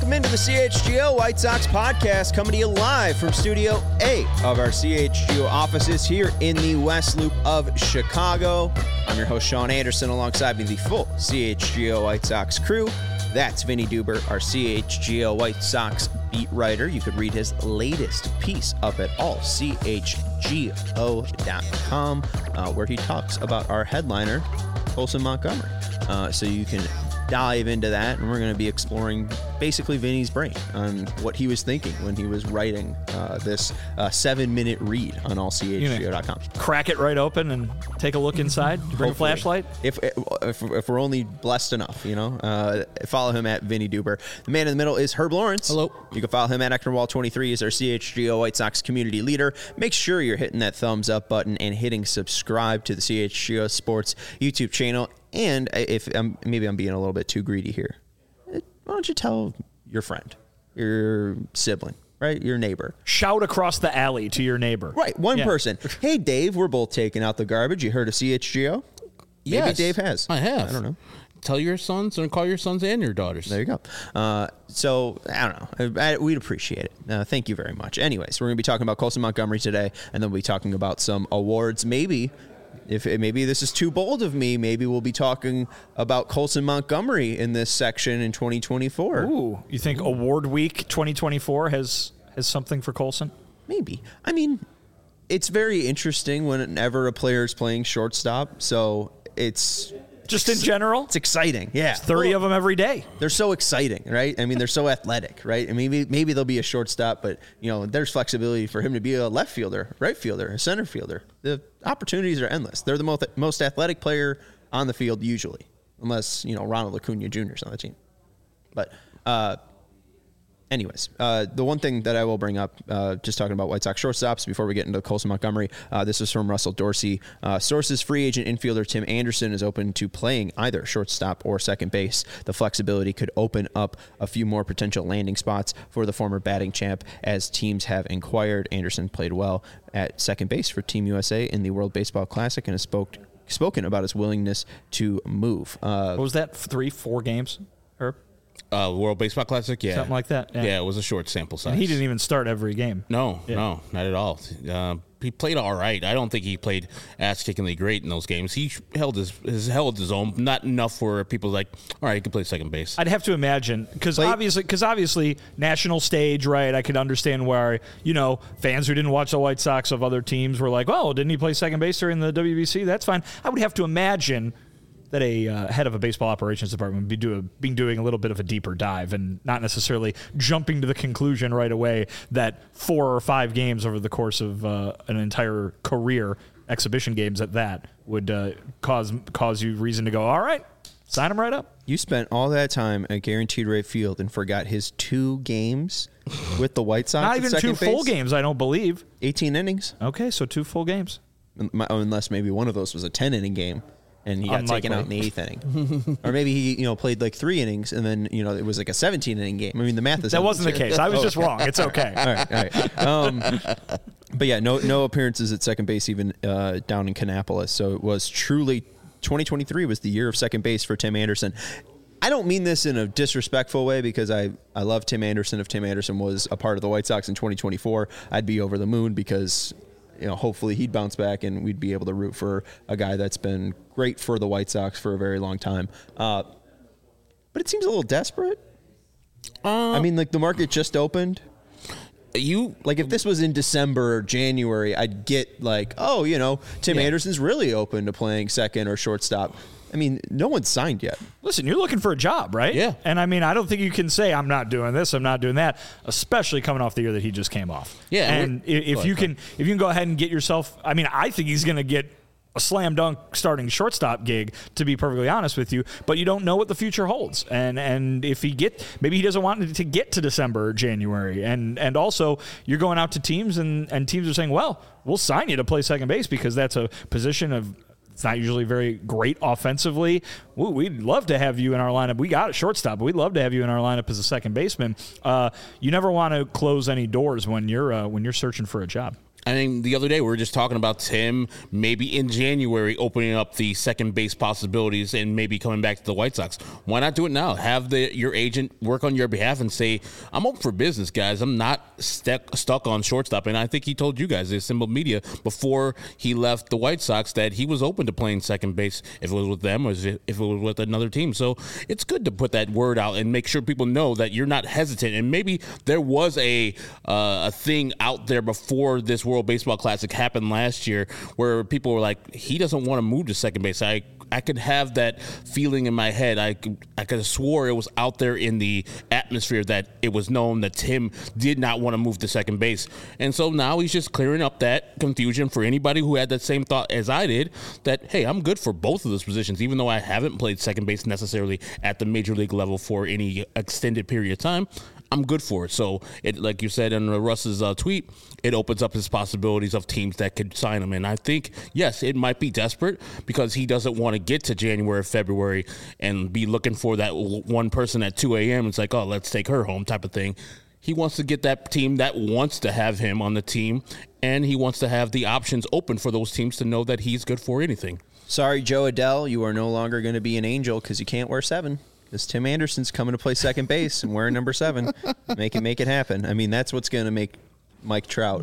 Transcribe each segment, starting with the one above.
Welcome into the CHGO White Sox podcast, coming to you live from Studio A of our CHGO offices here in the West Loop of Chicago. I'm your host, Sean Anderson, alongside me, the full CHGO White Sox crew. That's Vinny Duber, our CHGO White Sox beat writer. You could read his latest piece up at allchgo.com, where he talks about our headliner, Colson Montgomery. So you can dive into that, and we're going to be exploring basically Vinny's brain on what he was thinking when he was writing this 7-minute read on allchgo.com. Crack it right open and take a look inside. Bring Hopefully. a flashlight. If we're only blessed enough, follow him at Vinny Duber. The man in the middle is Herb Lawrence. Hello. You can follow him at Ectorwall23. He's our CHGO White Sox community leader. Make sure you're hitting that thumbs up button and hitting subscribe to the CHGO Sports YouTube channel. And if maybe I'm being a little bit too greedy here, why don't you tell your friend, your sibling, right? Your neighbor. Shout across the alley to your neighbor. Right. One person. Hey, Dave, we're both taking out the garbage. You heard of CHGO? Maybe Yes, Dave has. I have. I don't know. Tell your sons and call your sons and your daughters. There you go. So, I don't know. We'd appreciate it. Thank you very much. Anyways, we're going to be talking about Colson Montgomery today, and then we'll be talking about some awards. Maybe this is too bold of me, maybe we'll be talking about Colson Montgomery in this section in 2024. Ooh, you think Award Week 2024 has something for Colson? Maybe. I mean, it's very interesting whenever a player is playing shortstop, so it's... Just in general? It's exciting, yeah. 30 of them every day. They're so exciting, right? I mean, they're so athletic, right? And maybe they'll be a shortstop, but, there's flexibility for him to be a left fielder, right fielder, a center fielder. The opportunities are endless. They're the most athletic player on the field usually, unless, Ronald Acuna Jr. is on the team. But anyways, the one thing that I will bring up, just talking about White Sox shortstops before we get into Colson Montgomery, this is from Russell Dorsey. Sources: free agent infielder Tim Anderson is open to playing either shortstop or second base. The flexibility could open up a few more potential landing spots for the former batting champ as teams have inquired. Anderson played well at second base for Team USA in the World Baseball Classic and has spoken about his willingness to move. What was that, 3-4 games, Herb? World Baseball Classic, yeah. Something like that. Yeah, it was a short sample size. And he didn't even start every game. No, not at all. He played all right. I don't think he played ass-kickingly great in those games. He held his own, not enough for people like, all right, he can play second base. I'd have to imagine, because obviously national stage, right? I could understand where, fans who didn't watch the White Sox of other teams were like, oh, didn't he play second base during the WBC? That's fine. I would have to imagine that a head of a baseball operations department would be doing a little bit of a deeper dive and not necessarily jumping to the conclusion right away that 4 or 5 games over the course of an entire career, exhibition games at that, would cause you reason to go, all right, sign him right up. You spent all that time at Guaranteed Rate Field and forgot his 2 games with the White Sox. Not even 2 full games, I don't believe. 18 innings. Okay, so 2 full games. Unless maybe one of those was a 10-inning game. And he got taken out in the 8th inning. Or maybe he, played like 3 innings and then, it was like a 17-inning game. I mean, the math is... That wasn't the case. I was just wrong. It's okay. All right. But yeah, no appearances at second base even down in Kannapolis. So it was truly... 2023 was the year of second base for Tim Anderson. I don't mean this in a disrespectful way because I love Tim Anderson. If Tim Anderson was a part of the White Sox in 2024, I'd be over the moon because... hopefully he'd bounce back and we'd be able to root for a guy that's been great for the White Sox for a very long time. But it seems a little desperate. I mean, like the market just opened. If this was in December or January, I'd get like, Tim Anderson's really open to playing second or shortstop. I mean, no one's signed yet. Listen, you're looking for a job, right? Yeah. And I mean, I don't think you can say, I'm not doing this, I'm not doing that, especially coming off the year that he just came off. Yeah. And if you can go ahead and get yourself, I mean, I think he's going to get a slam dunk starting shortstop gig, to be perfectly honest with you, but you don't know what the future holds. And if maybe he doesn't want to get to December or January. And also you're going out to teams and teams are saying, well, we'll sign you to play second base because that's a position of, it's not usually very great offensively. Ooh, we'd love to have you in our lineup. We got a shortstop, but we'd love to have you in our lineup as a second baseman. You never want to close any doors when you're searching for a job. I mean, the other day we were just talking about Tim maybe in January opening up the second base possibilities and maybe coming back to the White Sox. Why not do it now? Have your agent work on your behalf and say, I'm open for business, guys. I'm not stuck on shortstop. And I think he told you guys, the assembled media, before he left the White Sox that he was open to playing second base if it was with them or if it was with another team. So it's good to put that word out and make sure people know that you're not hesitant. And maybe there was a thing out there before this World Baseball Classic happened last year where people were like, he doesn't want to move to second base. I could have that feeling in my head. I could have swore it was out there in the atmosphere that it was known that Tim did not want to move to second base. And so now he's just clearing up that confusion for anybody who had that same thought as I did, that, hey, I'm good for both of those positions, even though I haven't played second base necessarily at the major league level for any extended period of time. I'm good for it. So, like you said in Russ's tweet, it opens up his possibilities of teams that could sign him. And I think, yes, it might be desperate because he doesn't want to get to January, February and be looking for that one person at 2 a.m. It's like, oh, let's take her home type of thing. He wants to get that team that wants to have him on the team, and he wants to have the options open for those teams to know that he's good for anything. Sorry, Joe Adell, you are no longer going to be an Angel because you can't wear 7. Because Tim Anderson's coming to play second base and wearing number 7. Make it happen. I mean, that's what's going to make Mike Trout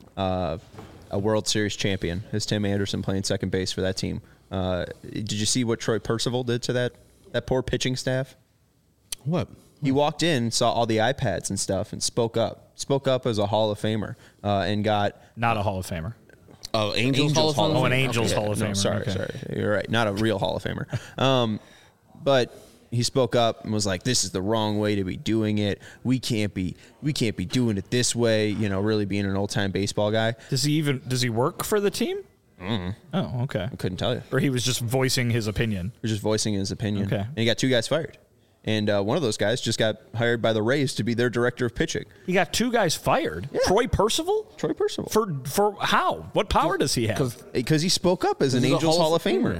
a World Series champion, is Tim Anderson playing second base for that team. Did you see what Troy Percival did to that poor pitching staff? What? He walked in, saw all the iPads and stuff, and spoke up. Spoke up as a Hall of Famer and got... Not a Hall of Famer. Oh, Angels Hall of Famer? Oh, an Angels Hall of Famer. No, sorry. You're right. Not a real Hall of Famer. But... he spoke up and was like, this is the wrong way to be doing it. We can't be doing it this way, really being an old-time baseball guy. Does he work for the team? Mm-hmm. Oh, okay. I couldn't tell you. Or he was just voicing his opinion. He was just voicing his opinion. Okay. And he got 2 guys fired. And one of those guys just got hired by the Rays to be their director of pitching. He got 2 guys fired? Yeah. Troy Percival? Troy Percival. For how? What power does he have? Because he spoke up as an Angels Hall of Famer.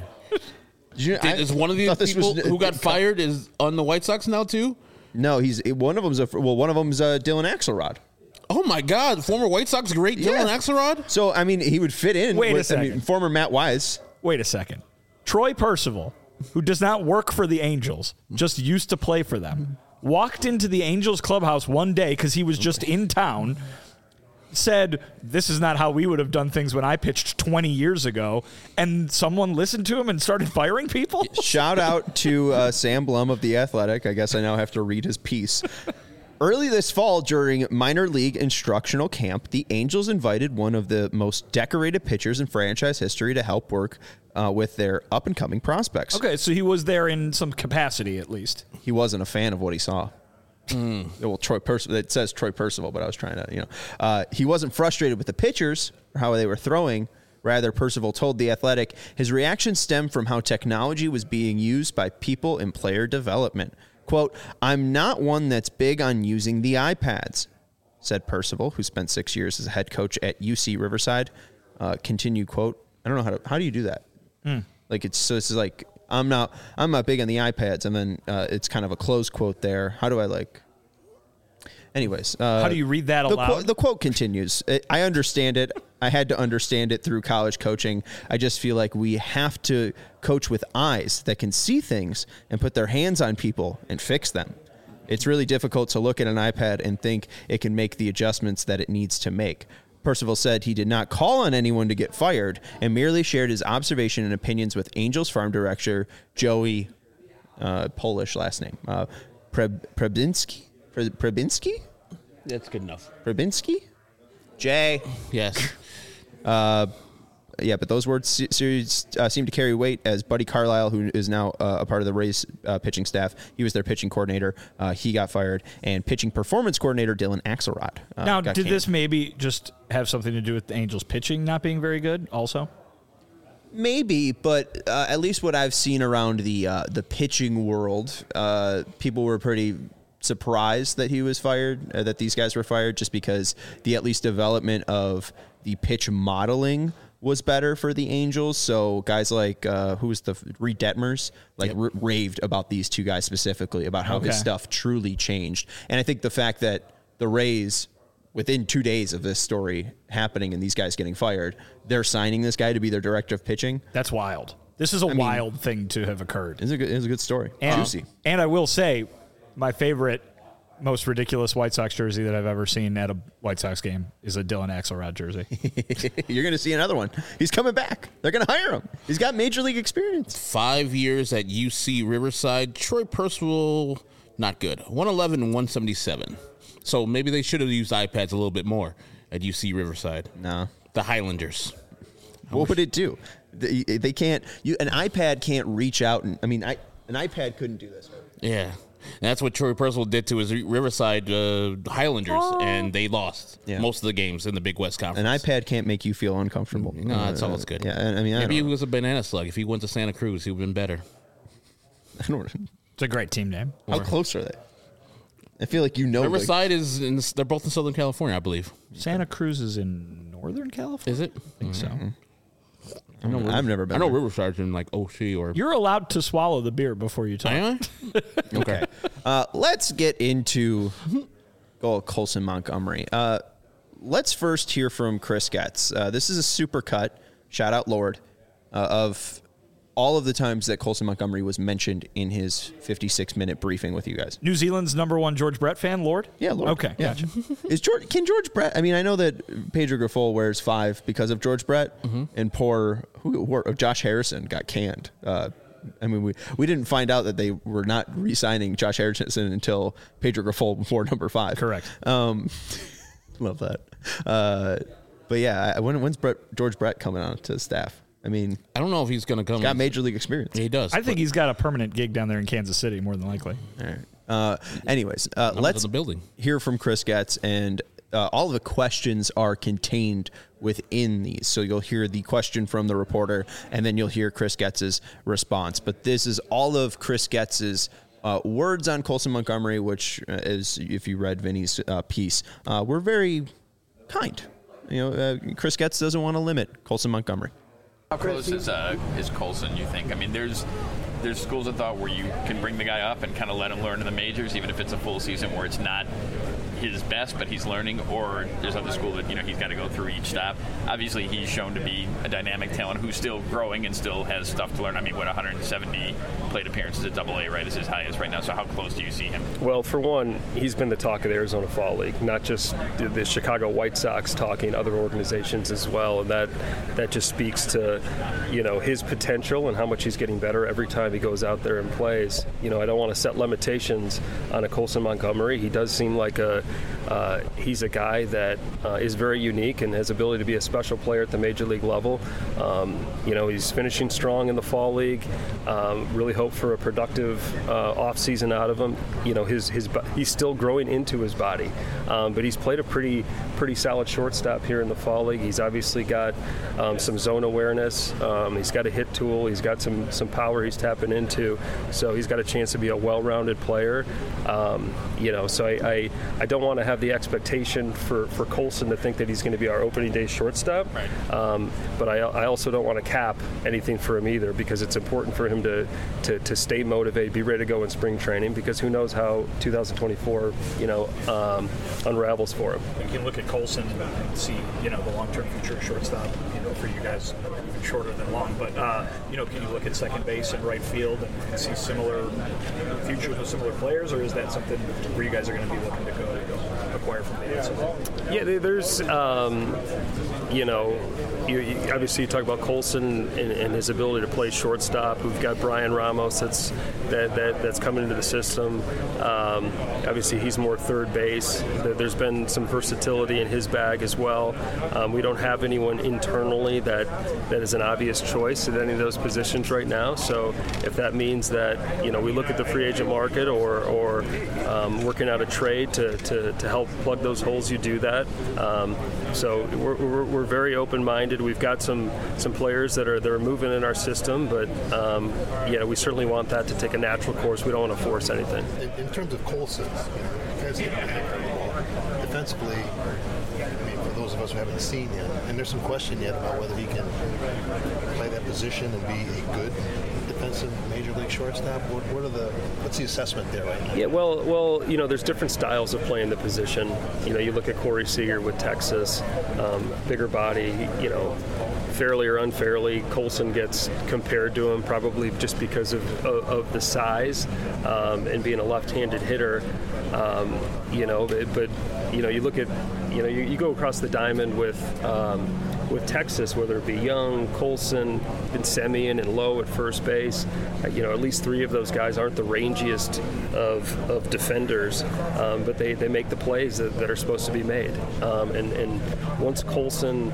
Is one of these people who got fired is on the White Sox now too? No, one of them's Dylan Axelrod. Oh my God, former White Sox great Dylan Axelrod. So I mean, he would fit in. Wait a second. Former Matt Wise. Wait a second. Troy Percival, who does not work for the Angels, just used to play for them, walked into the Angels clubhouse one day because he was just in town. Said, this is not how we would have done things when I pitched 20 years ago, and someone listened to him and started firing people? Shout out to Sam Blum of The Athletic. I guess I now have to read his piece. Early this fall, during minor league instructional camp, the Angels invited one of the most decorated pitchers in franchise history to help work with their up-and-coming prospects. Okay, so he was there in some capacity, at least. He wasn't a fan of what he saw. Well, Troy Percival. It says Troy Percival, but I was trying to, he wasn't frustrated with the pitchers or how they were throwing. Rather, Percival told The Athletic his reaction stemmed from how technology was being used by people in player development. Quote, I'm not one that's big on using the iPads, said Percival, who spent 6 years as a head coach at UC Riverside. Continued, quote, I don't know how do you do that? Like, it's like, I'm not big on the iPads, and then it's kind of a closed quote there. How do I Anyways, how do you read that aloud? The quote continues. I understand it. I had to understand it through college coaching. I just feel like we have to coach with eyes that can see things and put their hands on people and fix them. It's really difficult to look at an iPad and think it can make the adjustments that it needs to make. Percival said he did not call on anyone to get fired and merely shared his observation and opinions with Angels farm director Joey, Polish last name, Przybinski? That's good enough. Przybinski? Jay. Yes. But those words seem to carry weight as Buddy Carlisle, who is now a part of the Rays pitching staff, he was their pitching coordinator. He got fired. And pitching performance coordinator Dylan Axelrod now, did this maybe just have something to do with the Angels pitching not being very good also? Maybe, but at least what I've seen around the pitching world, people were pretty surprised that he was fired, that these guys were fired, just because the at least development of the pitch modeling was better for the Angels. So guys like who was the Reed Detmers raved about these 2 guys specifically, about how his stuff truly changed. And I think the fact that the Rays within 2 days of this story happening and these guys getting fired, they're signing this guy to be their director of pitching. That's wild. This is a wild thing to have occurred. It's a good story. And, Juicy. And I will say, my favorite, most ridiculous White Sox jersey that I've ever seen at a White Sox game is a Dylan Axelrod jersey. You're going to see another one. He's coming back. They're going to hire him. He's got major league experience. 5 years at UC Riverside. Troy Percival, not good. 111 and 177. So maybe they should have used iPads a little bit more at UC Riverside. No. The Highlanders. What would it do? They can't. An iPad can't reach out. An iPad couldn't do this. Yeah. And that's what Troy Percival did to his Riverside Highlanders, and they lost most of the games in the Big West Conference. An iPad can't make you feel uncomfortable. No, that's all it's good. Yeah, I mean, maybe he was a banana slug. If he went to Santa Cruz, he would have been better. I don't know. It's a great team name. How close are they? I feel like Riverside is in. They're both in Southern California, I believe. Santa Cruz is in Northern California. Is it? I think so. I've never been. I know there. Riverside's in like Oshie or. You're allowed to swallow the beer before you talk. Am I? Okay. Let's get into Colson Montgomery. Let's first hear from Chris Getz. This is a super cut. Shout out Lord of all of the times that Colson Montgomery was mentioned in his 56-minute briefing with you guys. New Zealand's #1 George Brett fan, Lord? Yeah, Lord. Okay, yeah. Gotcha. Can George Brett? I mean, I know that Pedro Grifol wears 5 because of George Brett, and Josh Harrison got canned. I mean, we didn't find out that they were not re-signing Josh Harrison until Pedro Grifol wore number 5. Correct. Love that. But yeah, when's George Brett coming on to staff? I mean, I don't know if he's going to come. He's got major league experience. Yeah, he does. I think he's got a permanent gig down there in Kansas City, more than likely. All right. Anyways, let's hear from Chris Getz, and all of the questions are contained within these. So you'll hear the question from the reporter, and then you'll hear Chris Getz's response. But this is all of Chris Getz's words on Colson Montgomery, which is, if you read Vinny's piece, were very kind. Chris Getz doesn't want to limit Colson Montgomery. How close is Colson, you think? I mean, there's schools of thought where you can bring the guy up and kind of let him learn in the majors, even if it's a full season where it's not his best, but he's learning, or there's other school that, he's got to go through each stop. Obviously, he's shown to be a dynamic talent who's still growing and still has stuff to learn. I mean, 170 plate appearances at AA, right, is his highest right now. So how close do you see him? Well, for one, he's been the talk of the Arizona Fall League, not just the Chicago White Sox talking, other organizations as well, and that just speaks to, his potential and how much he's getting better every time he goes out there and plays. I don't want to set limitations on a Colson Montgomery. He does seem like he's a guy that is very unique and has ability to be a special player at the major league level. He's finishing strong in the fall league. Really hope for a productive off season out of him. He's still growing into his body, but he's played a pretty solid shortstop here in the fall league. He's obviously got some zone awareness. He's got a hit tool. He's got some power he's tapping into. So he's got a chance to be a well-rounded player. So I don't want to have the expectation for Colson to think that he's going to be our opening day shortstop. Right. But I also don't want to cap anything for him either, because it's important for him to stay motivated, be ready to go in spring training, because who knows how 2024 unravels for him. You can look at Colson and see the long-term future shortstop for you guys, even shorter than long, but can you look at second base and right field and see similar futures with similar players, or is that something where you guys are going to be looking to go acquire from the outside? Yeah, there's obviously you talk about Colson and his ability to play shortstop. We've got Brian Ramos that's coming into the system. Obviously he's more third base. There's been some versatility in his bag as well. We don't have anyone internally that is an obvious choice at any of those positions right now. So if that means that we look at the free agent market or working out a trade to help plug those holes, you do that. So we're very open-minded. We've got some players that are moving in our system, but we certainly want that to take a natural course. We don't want to force anything. In terms of Colson, because defensively, for those of us who haven't seen him, and there's some question yet about whether he can play that position and be a good defensive major league shortstop? What's the assessment there right now? Yeah, well, there's different styles of playing the position. You look at Corey Seager with Texas, bigger body, fairly or unfairly, Colson gets compared to him probably just because of the size and being a left-handed hitter. But you look at, you go across the diamond with Texas, whether it be Young, Colson, and Semien and Lowe at first base. At least three of those guys aren't the rangiest of defenders, but they make the plays that are supposed to be made. And once Colson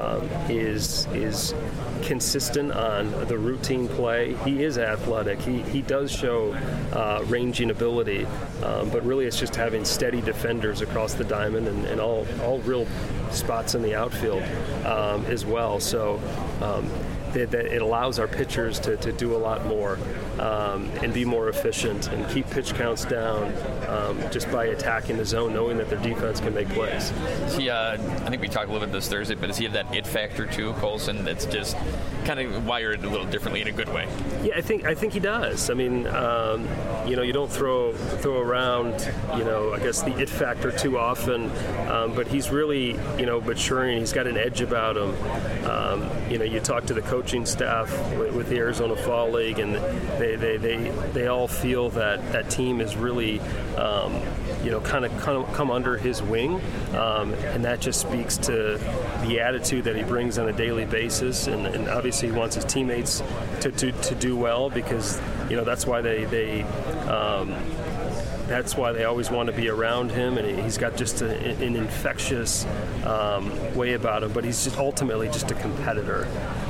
is consistent on the routine play, he is athletic. He does show ranging ability, but really it's just having steady defenders across the diamond and all real spots in the outfield as well. So that it allows our pitchers to do a lot more and be more efficient and keep pitch counts down just by attacking the zone, knowing that their defense can make plays. I think we talked a little bit this Thursday, but does he have that it factor too, Colson, that's just kind of wired a little differently in a good way? Yeah, I think he does. I mean, you don't throw around, I guess the it factor too often, but he's really, maturing. He's got an edge about him. You talk to the coaching staff with the Arizona Fall League, and they all feel that team is really, kind of come under his wing, and that just speaks to the attitude that he brings on a daily basis, and obviously he wants his teammates to do well, because that's why that's why they always want to be around him, and he's got just an infectious way about him. But he's just ultimately just a competitor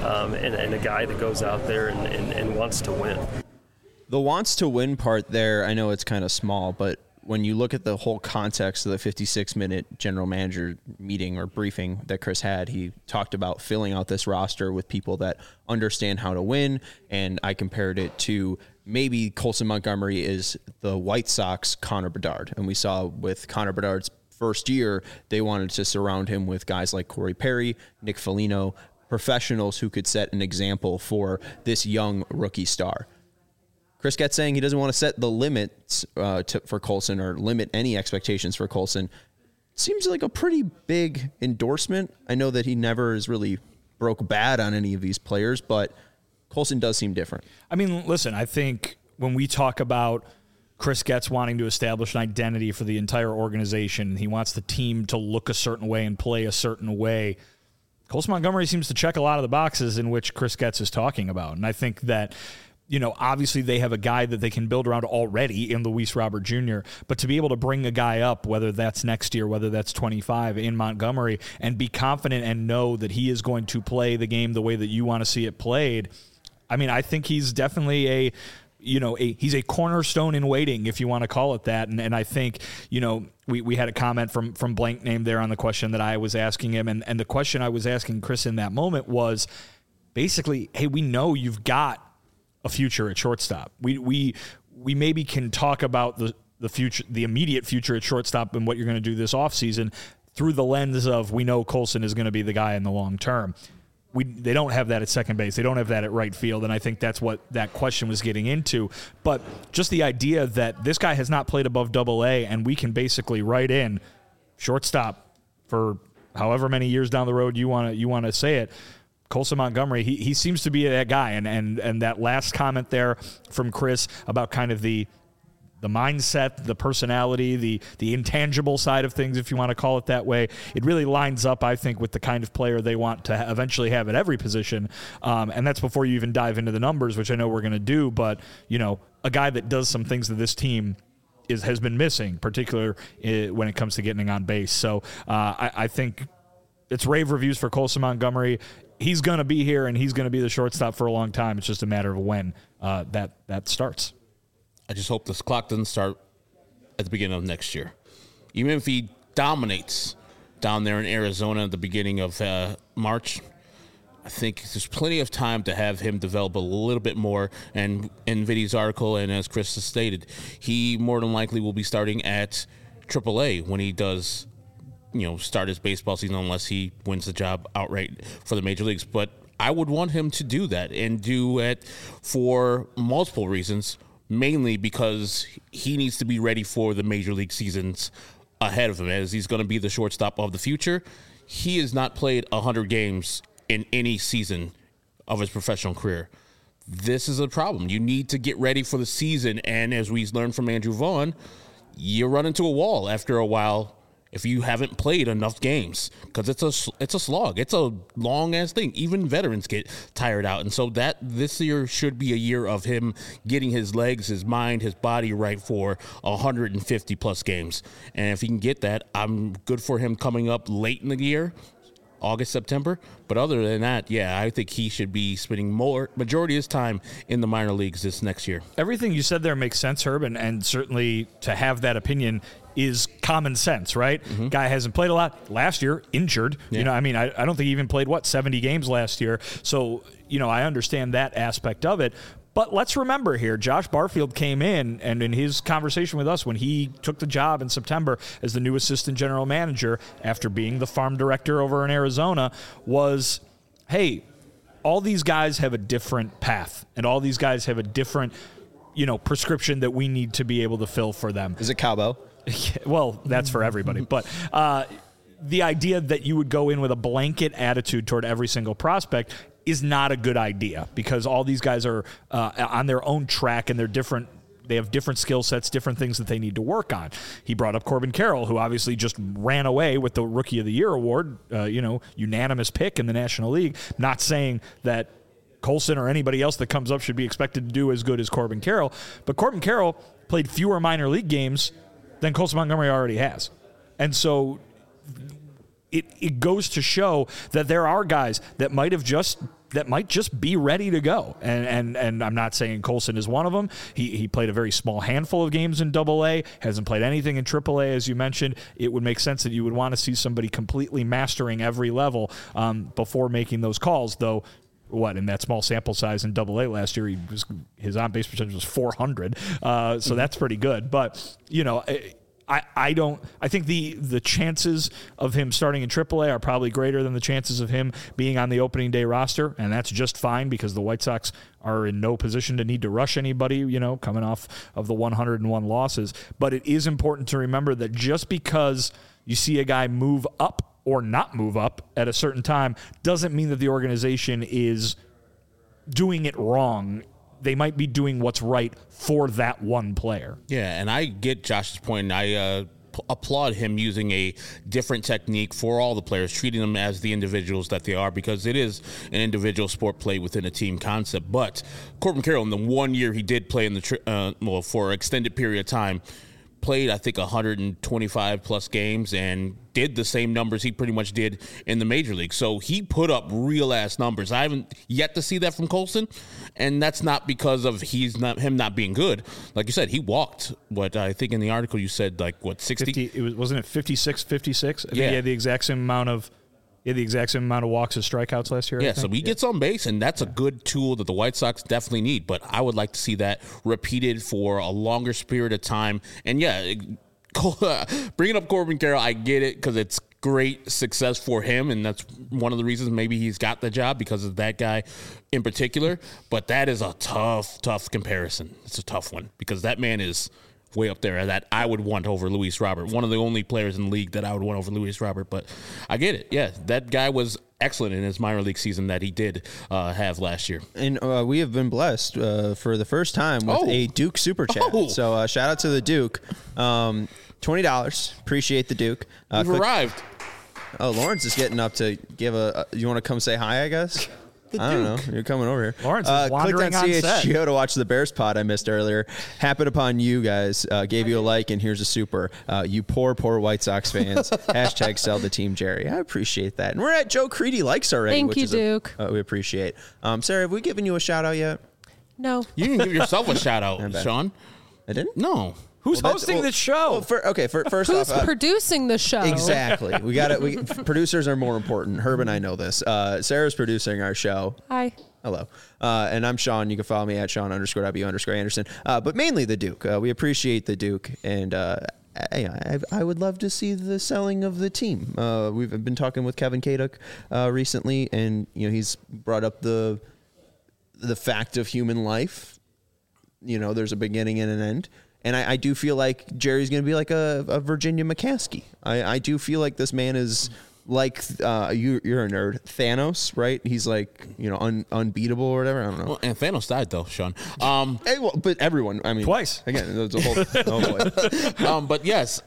and a guy that goes out there and wants to win. The wants to win part there, I know it's kind of small, but when you look at the whole context of the 56-minute general manager meeting or briefing that Chris had, he talked about filling out this roster with people that understand how to win, and I compared it to maybe Colson Montgomery is the White Sox Connor Bedard. And we saw with Connor Bedard's first year, they wanted to surround him with guys like Corey Perry, Nick Foligno, professionals who could set an example for this young rookie star. Chris Getz saying he doesn't want to set the limits for Colson or limit any expectations for Colson. Seems like a pretty big endorsement. I know that he never has really broke bad on any of these players, but Colson does seem different. I mean, listen, I think when we talk about Chris Getz wanting to establish an identity for the entire organization, he wants the team to look a certain way and play a certain way, Colson Montgomery seems to check a lot of the boxes in which Chris Getz is talking about. And I think that, obviously they have a guy that they can build around already in Luis Robert Jr., but to be able to bring a guy up, whether that's next year, whether that's 25 in Montgomery, and be confident and know that he is going to play the game the way that you want to see it played, I mean, I think he's definitely he's a cornerstone in waiting, if you want to call it that. And I think, we had a comment from blank name there on the question that I was asking him. And the question I was asking Chris in that moment was basically, hey, we know you've got a future at shortstop. We maybe can talk about the future, the immediate future at shortstop and what you're going to do this offseason through the lens of we know Colson is going to be the guy in the long term. They don't have that at second base. They don't have that at right field, and I think that's what that question was getting into. But just the idea that this guy has not played above Double-A, and we can basically write in shortstop for however many years down the road you want to say it. Colson Montgomery, he seems to be that guy, and that last comment there from Chris about kind of the mindset, the personality, the intangible side of things, if you want to call it that way, it really lines up, I think, with the kind of player they want to eventually have at every position. And that's before you even dive into the numbers, which I know we're going to do. But, a guy that does some things that this team has been missing, particularly when it comes to getting on base. So I think it's rave reviews for Colson Montgomery. He's going to be here, and he's going to be the shortstop for a long time. It's just a matter of when that starts. I just hope this clock doesn't start at the beginning of next year. Even if he dominates down there in Arizona at the beginning of March, I think there's plenty of time to have him develop a little bit more. And in Vinny's article, and as Chris has stated, he more than likely will be starting at AAA when he does, start his baseball season, unless he wins the job outright for the major leagues. But I would want him to do that and do it for multiple reasons, mainly because he needs to be ready for the major league seasons ahead of him, as he's going to be the shortstop of the future. He has not played 100 games in any season of his professional career. This is a problem. You need to get ready for the season, and as we learned from Andrew Vaughn, you run into a wall after a while if you haven't played enough games, because it's a slog. It's a long-ass thing. Even veterans get tired out. And so that this year should be a year of him getting his legs, his mind, his body right for 150-plus games. And if he can get that, I'm good for him coming up late in the year, August, September. But other than that, yeah, I think he should be spending majority of his time in the minor leagues this next year. Everything you said there makes sense, Herb, and certainly to have that opinion is common sense, right? Mm-hmm. Guy hasn't played a lot. Last year, injured. Yeah. I don't think he even played, 70 games last year. So, I understand that aspect of it. But let's remember here, Josh Barfield came in, and in his conversation with us when he took the job in September as the new assistant general manager after being the farm director over in Arizona, was, hey, all these guys have a different path, and all these guys have a different, prescription that we need to be able to fill for them. Is it Cabo? Well, that's for everybody. But the idea that you would go in with a blanket attitude toward every single prospect is not a good idea, because all these guys are on their own track, and they're different. They have different skill sets, different things that they need to work on. He brought up Corbin Carroll, who obviously just ran away with the Rookie of the Year award, unanimous pick in the National League. Not saying that Colson or anybody else that comes up should be expected to do as good as Corbin Carroll, but Corbin Carroll played fewer minor league games than Colson Montgomery already has. And so it goes to show that there are guys that might just be ready to go. And I'm not saying Colson is one of them. He played a very small handful of games in AA, hasn't played anything in AAA, as you mentioned. It would make sense that you would want to see somebody completely mastering every level before making those calls, though. In that small sample size in AA last year, his on-base percentage was 400. So that's pretty good. But, I think the chances of him starting in AAA are probably greater than the chances of him being on the opening day roster, and that's just fine because the White Sox are in no position to need to rush anybody, coming off of the 101 losses. But it is important to remember that just because you see a guy move up or not move up at a certain time doesn't mean that the organization is doing it wrong. They might be doing what's right for that one player. Yeah, and I get Josh's point. I applaud him using a different technique for all the players, treating them as the individuals that they are, because it is an individual sport played within a team concept. But Corbin Carroll, in the 1 year he did play in the for an extended period of time, played, I think, 125-plus games and did the same numbers he pretty much did in the major league. So he put up real-ass numbers. I haven't yet to see that from Colson, and that's not because of him not being good. Like you said, he walked, I think in the article you said, 60? Wasn't it 56, 56? I think yeah. He had the exact same amount of walks as strikeouts last year. Yeah, so he gets on base, and that's a good tool that the White Sox definitely need. But I would like to see that repeated for a longer period of time. And yeah, bringing up Corbin Carroll, I get it, because it's great success for him, and that's one of the reasons maybe he's got the job, because of that guy in particular. But that is a tough comparison. It's a tough one, because that man is way up there that I would want over Luis Robert. One of the only players in the league that I would want over Luis Robert. But I get it. Yeah, that guy was excellent in his minor league season that he did have last year. And we have been blessed for the first time with a Duke Super Chat. So shout out to the Duke. $20. Appreciate the Duke. We've arrived. Oh, Lawrence is getting up to give you want to come say hi, I guess? I don't know. You're coming over here. Lawrence is wandering on set. Clicked on CHGO to watch the Bears pod I missed earlier. Happened upon you guys. Gave you a like, and here's a super. You poor White Sox fans. Hashtag sell the team, Jerry. I appreciate that. And we're at Joe Creedy likes already. Thank you, Duke. We appreciate. Sarah, have we given you a shout out yet? No. You didn't give yourself a shout out, Sean. I didn't? No. Who's hosting this show? First Who's off, producing the show? Exactly. Producers are more important. Herb and I know this. Sarah's producing our show. Hi. Hello. And I'm Sean. You can follow me at Sean_W_Anderson. But mainly the Duke. We appreciate the Duke. And I would love to see the selling of the team. We've been talking with Kevin Kaduk recently, and he's brought up the fact of human life. There's a beginning and an end. And I do feel like Jerry's going to be like a Virginia McCaskey. I do feel like this man is like you're a nerd, Thanos, right? He's like unbeatable or whatever. I don't know. Well, and Thanos died though, Sean. But everyone, I mean, twice again. There's a whole. Oh boy. But yes,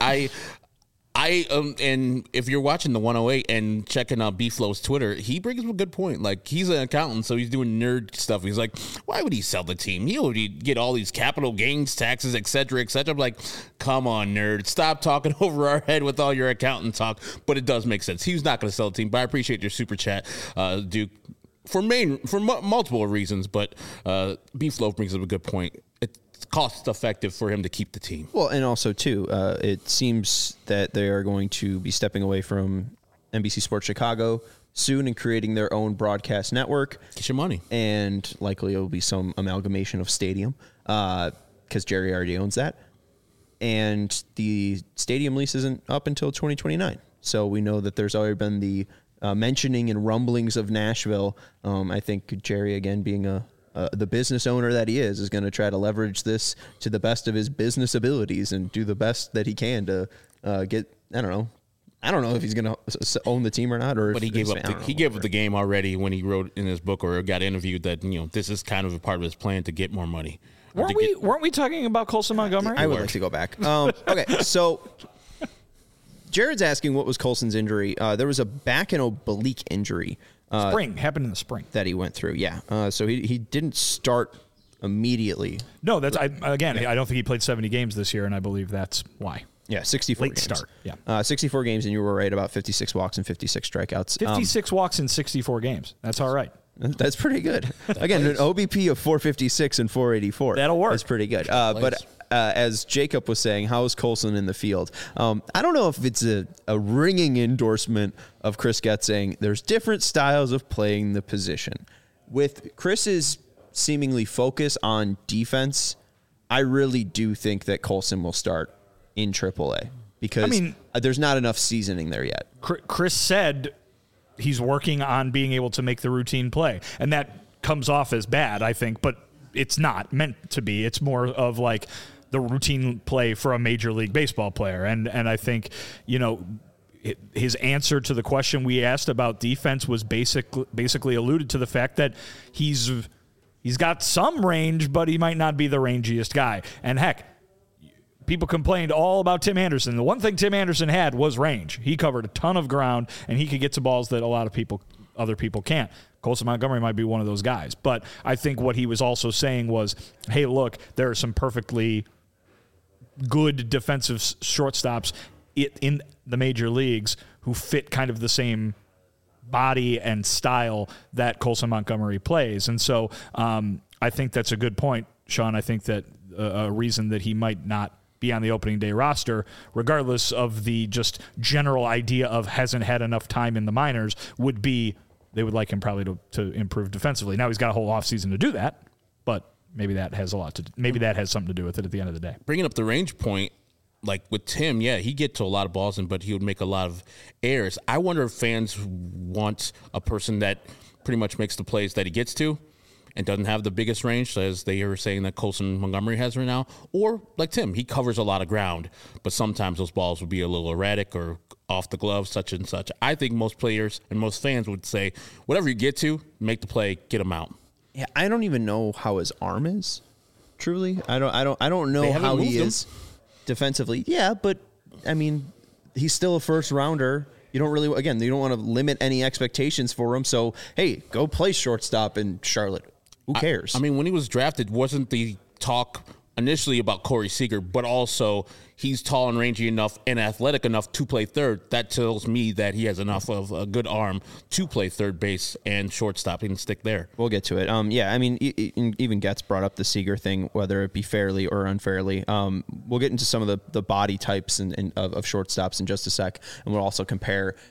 and if you're watching the 108 and checking out B-Flow's Twitter, he brings up a good point. Like, he's an accountant, so he's doing nerd stuff. He's like, why would he sell the team? He'll get all these capital gains taxes, et cetera, et cetera. I'm like, come on, nerd. Stop talking over our head with all your accountant talk. But it does make sense. He's not going to sell the team, but I appreciate your super chat, Duke, for multiple reasons. But B-Flow brings up a good point. Cost effective for him to keep the team. Well, and also too, it seems that they are going to be stepping away from NBC Sports Chicago soon and creating their own broadcast network. Get your money. And likely it will be some amalgamation of stadium because Jerry already owns that. And the stadium lease isn't up until 2029. So we know that there's already been the mentioning and rumblings of Nashville. I think Jerry, again, being the business owner that he is going to try to leverage this to the best of his business abilities and do the best that he can to get. I don't know if he's going to own the team or not. But he gave up the game already when he wrote in his book or got interviewed that this is kind of a part of his plan to get more money. Weren't we talking about Colson Montgomery? I would like to go back. Okay, so Jared's asking what was Colson's injury. There was a back and oblique injury. Happened in the spring that he went through. Yeah. So he didn't start immediately. No, I don't think he played 70 games this year, and I believe that's why. Yeah, 64 late games. Start. Yeah, 64 games, and you were right about 56 walks and 56 strikeouts. 56 walks in 64 games. That's all right. That's pretty good. Again, an OBP of 456 and 484. That'll work. That's pretty good. But as Jacob was saying, how is Colson in the field? I don't know if it's a ringing endorsement of Chris Getz saying there's different styles of playing the position. With Chris's seemingly focus on defense, I really do think that Colson will start in AAA because there's not enough seasoning there yet. Chris said he's working on being able to make the routine play, and that comes off as bad, I think, but it's not meant to be. It's more of like the routine play for a Major League Baseball player. And I think, his answer to the question we asked about defense was basically alluded to the fact that he's got some range, but he might not be the rangiest guy. And heck, people complained all about Tim Anderson. The one thing Tim Anderson had was range. He covered a ton of ground, and he could get to balls that a lot of other people can't. Colson Montgomery might be one of those guys. But I think what he was also saying was, hey, look, there are some perfectly good defensive shortstops in the major leagues who fit kind of the same body and style that Colson Montgomery plays. And so I think that's a good point, Sean. I think that a reason that he might not be on the opening day roster, regardless of the just general idea of hasn't had enough time in the minors, would be they would like him probably to improve defensively. Now he's got a whole offseason to do that, but maybe that has something to do with it at the end of the day. Bringing up the range point, like with Tim, he'd get to a lot of balls, but he would make a lot of errors. I wonder if fans want a person that pretty much makes the plays that he gets to and doesn't have the biggest range, as they are saying that Colson Montgomery has right now. Or like Tim, he covers a lot of ground, but sometimes those balls would be a little erratic or off the glove, such and such. I think most players and most fans would say, whatever you get to, make the play, get him out. Yeah, I don't even know how his arm is. Truly, I don't know how he is defensively. Yeah, but I mean, he's still a first rounder. You don't want to limit any expectations for him. So, hey, go play shortstop in Charlotte. Who cares? I mean, when he was drafted, wasn't the talk initially about Corey Seager, but also he's tall and rangy enough and athletic enough to play third. That tells me that he has enough of a good arm to play third base and shortstop and stick there. We'll get to it. I mean, even Getz brought up the Seager thing, whether it be fairly or unfairly. We'll get into some of the body types and of shortstops in just a sec, and we'll also compare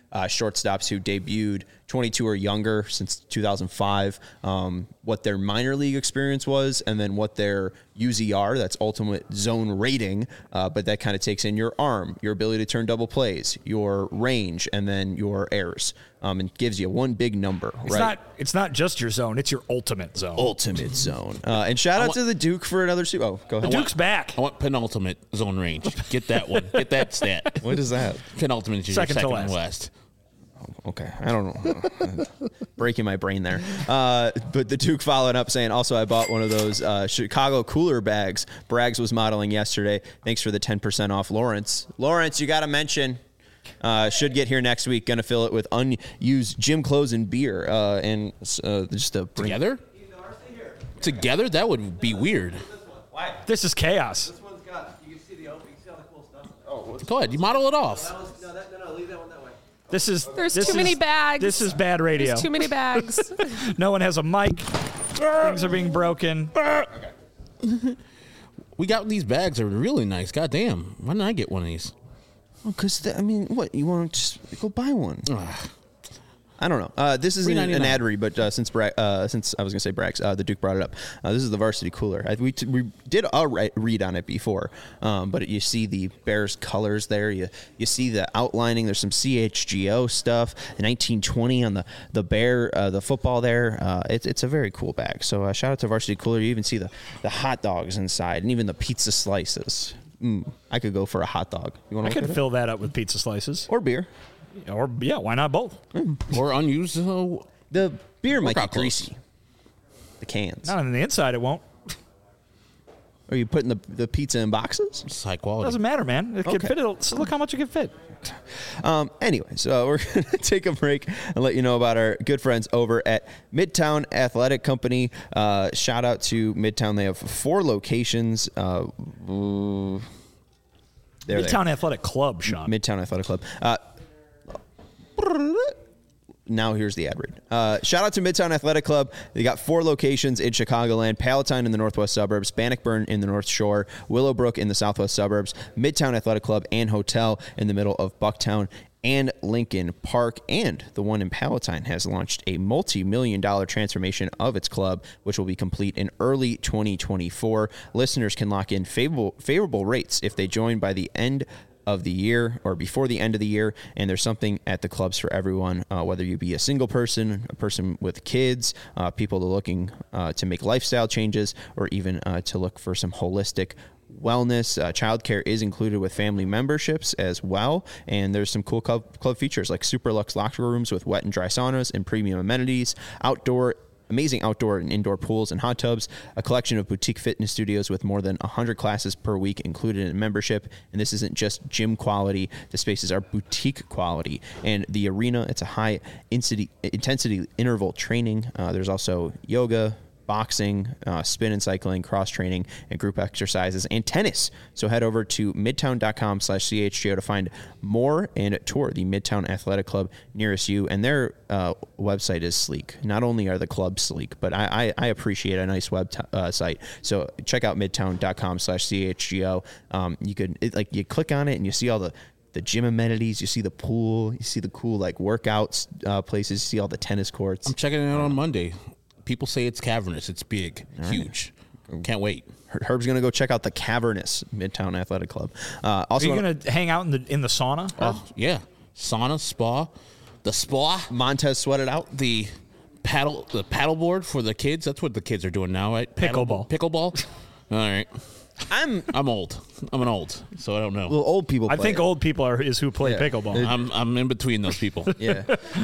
shortstops who debuted 22 or younger since 2005, what their minor league experience was, and then what their UZR, that's ultimate zone rating, but that kind of takes in your arm, your ability to turn double plays, your range, and then your errors, and gives you one big number. It's not just your zone; it's your ultimate zone. Ultimate zone. And shout out to the Duke for another super. Oh, go ahead. The Duke's back. I want penultimate zone range. Get that one. Get that stat. What is that? Penultimate is Second to second last. and last. Okay, I don't know. Breaking my brain there. But the Duke followed up saying, also, I bought one of those Chicago cooler bags Braggs was modeling yesterday. Thanks for the 10% off, Lawrence. Lawrence, you got to mention. Should get here next week. Going to fill it with unused gym clothes and beer. And just a Together? Together? That would be weird. This is chaos. This one's got, you can see the opening, see all the cool stuff. Oh, go ahead. You model it off. No, leave that one that way. There's too many bags. This is bad radio. There's too many bags. No one has a mic. Things are being broken. We got these bags that are really nice. God damn. Why didn't I get one of these? Because, what? You want to just go buy one? I don't know. This isn't an $3.99. ad read, but since I was going to say Braggs, the Duke brought it up. This is the varsity cooler. We did a read on it before, but you see the Bears colors there. You see the outlining. There's some CHGO stuff. The 1920 on the bear, the football there. It's a very cool bag. So shout out to Varsity Cooler. You even see the hot dogs inside and even the pizza slices. I could go for a hot dog. You want I to could fill that up with pizza slices. or beer. Or, yeah, why not both? Or unused. The beer might be Workout clothes. greasy. The cans. Not on the inside, it won't. Are you putting the pizza in boxes? It's high quality. Doesn't matter, man. It can Okay. fit. So look how much it can fit. Anyway, so we're going to take a break and let you know about our good friends over at Midtown Athletic Company. Shout out to Midtown. They have 4 locations. Midtown Midtown Athletic Club, Sean. Midtown Athletic Club. Now here's the ad read. Shout out to Midtown Athletic Club. They got 4 locations in Chicagoland: Palatine in the northwest suburbs, Bannockburn in the North Shore, Willowbrook in the southwest suburbs, Midtown Athletic Club and Hotel in the middle of Bucktown and Lincoln Park. And the one in Palatine has launched a multi-million-dollar transformation of its club, which will be complete in early 2024. Listeners can lock in favorable rates if they join by the end of the year or before the end of the year, and there's something at the clubs for everyone, whether you be a single person, a person with kids, people looking to make lifestyle changes, or even to look for some holistic wellness. Childcare is included with family memberships as well, and there's some cool club features like super luxe locker rooms with wet and dry saunas and premium amenities, amazing outdoor and indoor pools and hot tubs, a collection of boutique fitness studios with more than 100 classes per week included in membership. And this isn't just gym quality. The spaces are boutique quality. And the arena, it's a high intensity interval training. There's also yoga, boxing, spin and cycling, cross training, and group exercises, and tennis. So head over to midtown.com/CHGO to find more and tour the Midtown Athletic Club nearest you. And their website is sleek. Not only are the clubs sleek, but I appreciate a nice site. So check out midtown.com/CHGO. You click on it and you see all the gym amenities, you see the pool, you see the cool workouts places, you see all the tennis courts. I'm checking it out on Monday. People say it's cavernous. It's big, huge. Can't wait. Herb's going to go check out the cavernous Midtown Athletic Club. Also, are you going to hang out in the sauna? Oh, yeah. Sauna, spa. The spa. Montez sweated out. The paddleboard for the kids. That's what the kids are doing now, right? Pickleball. Pickleball. All right. I'm old. I'm an old, so I don't know. Well, old people play I think it. old people is who play pickleball. I'm in between those people. Yeah.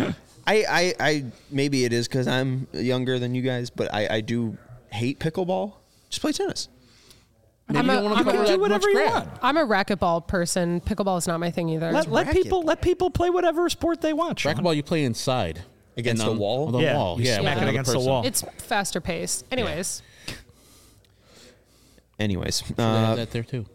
I maybe it is because I'm younger than you guys, but I do hate pickleball. Just play tennis. You don't want to cover do that whatever much you crap. want. I'm a racquetball person. Pickleball is not my thing either. Let people play whatever sport they want. Sean. Racquetball, you play inside. Against And the wall? On the wall. You Yeah. smack with it another against the person. wall. It's faster paced. Anyways, Anyways, that there too.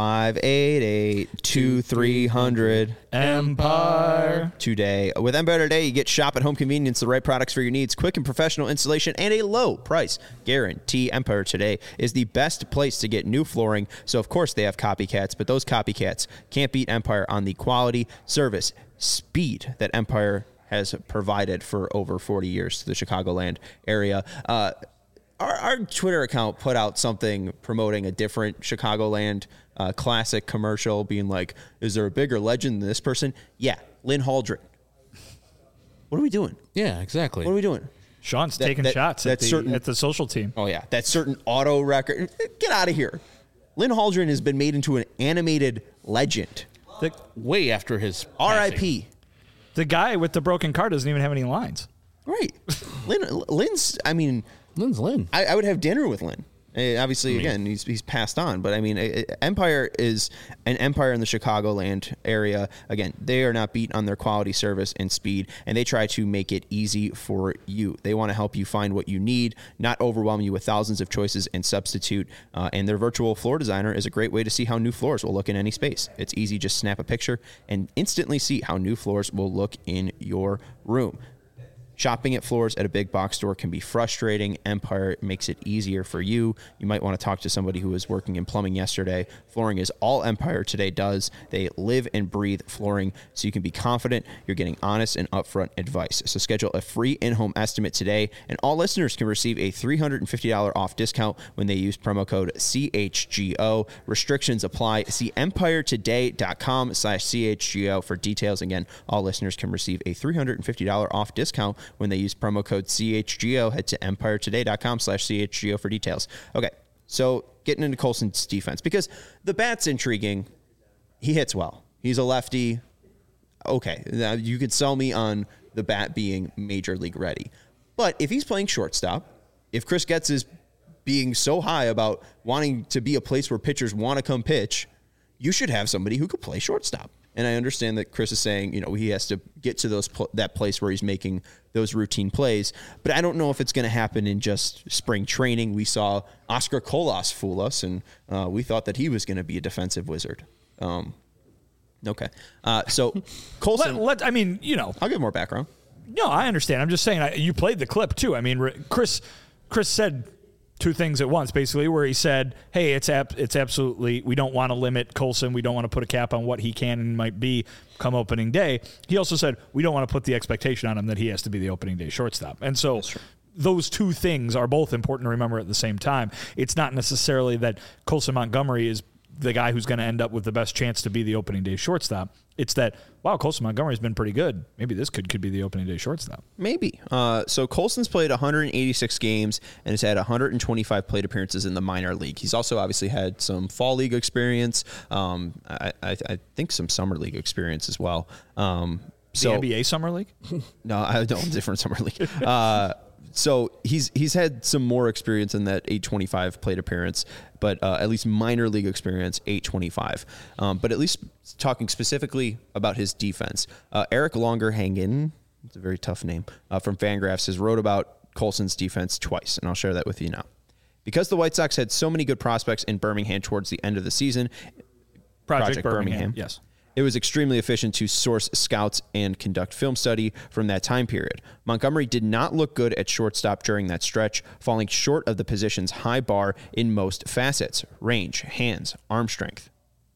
588-2300 Empire today. With Empire Today, you get shop at home convenience, the right products for your needs, quick and professional installation, and a low price guarantee. Empire Today is the best place to get new flooring. So, of course, they have copycats, but those copycats can't beat Empire on the quality, service, speed that Empire has provided for over 40 years to the Chicagoland area. Our Twitter account put out something promoting a different Chicagoland classic commercial, being like, is there a bigger legend than this person? Yeah, Lynn Haldren. What are we doing? Yeah, exactly. What are we doing? Sean's taking shots at the social team. Oh, yeah. That certain auto record. Get out of here. Lynn Haldren has been made into an animated legend. Way after his R.I.P. The guy with the broken car doesn't even have any lines. Right. Lynn's, I mean... Lynn's Lynn. I would have dinner with Lynn. Obviously, again, he's passed on, but I mean, Empire is an empire in the Chicagoland area. Again, they are not beat on their quality, service, and speed, and they try to make it easy for you. They want to help you find what you need, not overwhelm you with thousands of choices and substitute. And their virtual floor designer is a great way to see how new floors will look in any space. It's easy, just snap a picture and instantly see how new floors will look in your room. Shopping at floors at a big box store can be frustrating. Empire makes it easier for you. You might want to talk to somebody who was working in plumbing yesterday. Flooring is all Empire Today does. They live and breathe flooring, so you can be confident you're getting honest and upfront advice. So schedule a free in-home estimate today, and all listeners can receive a $350 off discount when they use promo code CHGO. Restrictions apply. See empiretoday.com/CHGO for details. Again, all listeners can receive a $350 off discount when they use promo code CHGO. Head to empiretoday.com/CHGO for details. Okay, so getting into Colson's defense, because the bat's intriguing. He hits well. He's a lefty. Okay, now you could sell me on the bat being major league ready. But if he's playing shortstop, if Chris Getz is being so high about wanting to be a place where pitchers want to come pitch, you should have somebody who could play shortstop. And I understand that Chris is saying, he has to get to that place where he's making those routine plays. But I don't know if it's going to happen in just spring training. We saw Oscar Colas fool us, and we thought that he was going to be a defensive wizard. Okay. So Colson. I'll give more background. No, I understand. I'm just saying, you played the clip too. I mean, Chris said two things at once, basically, where he said, hey, it's absolutely, we don't want to limit Colson. We don't want to put a cap on what he can and might be come opening day. He also said, we don't want to put the expectation on him that he has to be the opening day shortstop. And so those two things are both important to remember at the same time. It's not necessarily that Colson Montgomery is the guy who's going to end up with the best chance to be the opening day shortstop. It's that, wow, Colson Montgomery's been pretty good. Maybe this could be the opening day shortstop. Maybe. So Colson's played 186 games and has had 125 plate appearances in the minor league. He's also obviously had some fall league experience. I think some summer league experience as well. The NBA summer league? No, I don't. Different summer league. So he's had some more experience in that 825 plate appearance, but at least minor league experience, 825. But at least talking specifically about his defense, Eric Longerhagen, it's a very tough name, from Fangraphs, has wrote about Colson's defense twice, and I'll share that with you now. Because the White Sox had so many good prospects in Birmingham towards the end of the season, Project Birmingham, yes. It was extremely efficient to source scouts and conduct film study from that time period. Montgomery did not look good at shortstop during that stretch, falling short of the position's high bar in most facets: range, hands, arm strength.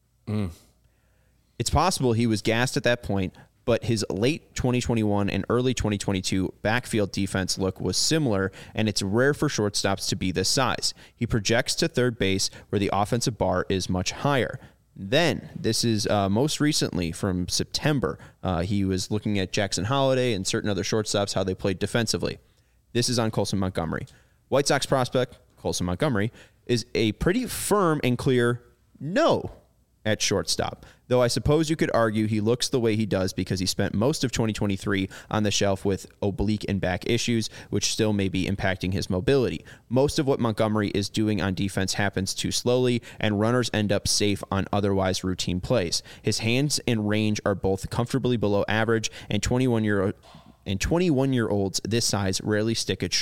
It's possible he was gassed at that point, but his late 2021 and early 2022 backfield defense look was similar, and it's rare for shortstops to be this size. He projects to third base where the offensive bar is much higher. Then, this is most recently from September, he was looking at Jackson Holliday and certain other shortstops, how they played defensively. This is on Colson Montgomery. White Sox prospect, Colson Montgomery, is a pretty firm and clear no at shortstop. Though I suppose you could argue he looks the way he does because he spent most of 2023 on the shelf with oblique and back issues, which still may be impacting his mobility. Most of what Montgomery is doing on defense happens too slowly, and runners end up safe on otherwise routine plays. His hands and range are both comfortably below average, and 21-year-olds this size rarely stick it short.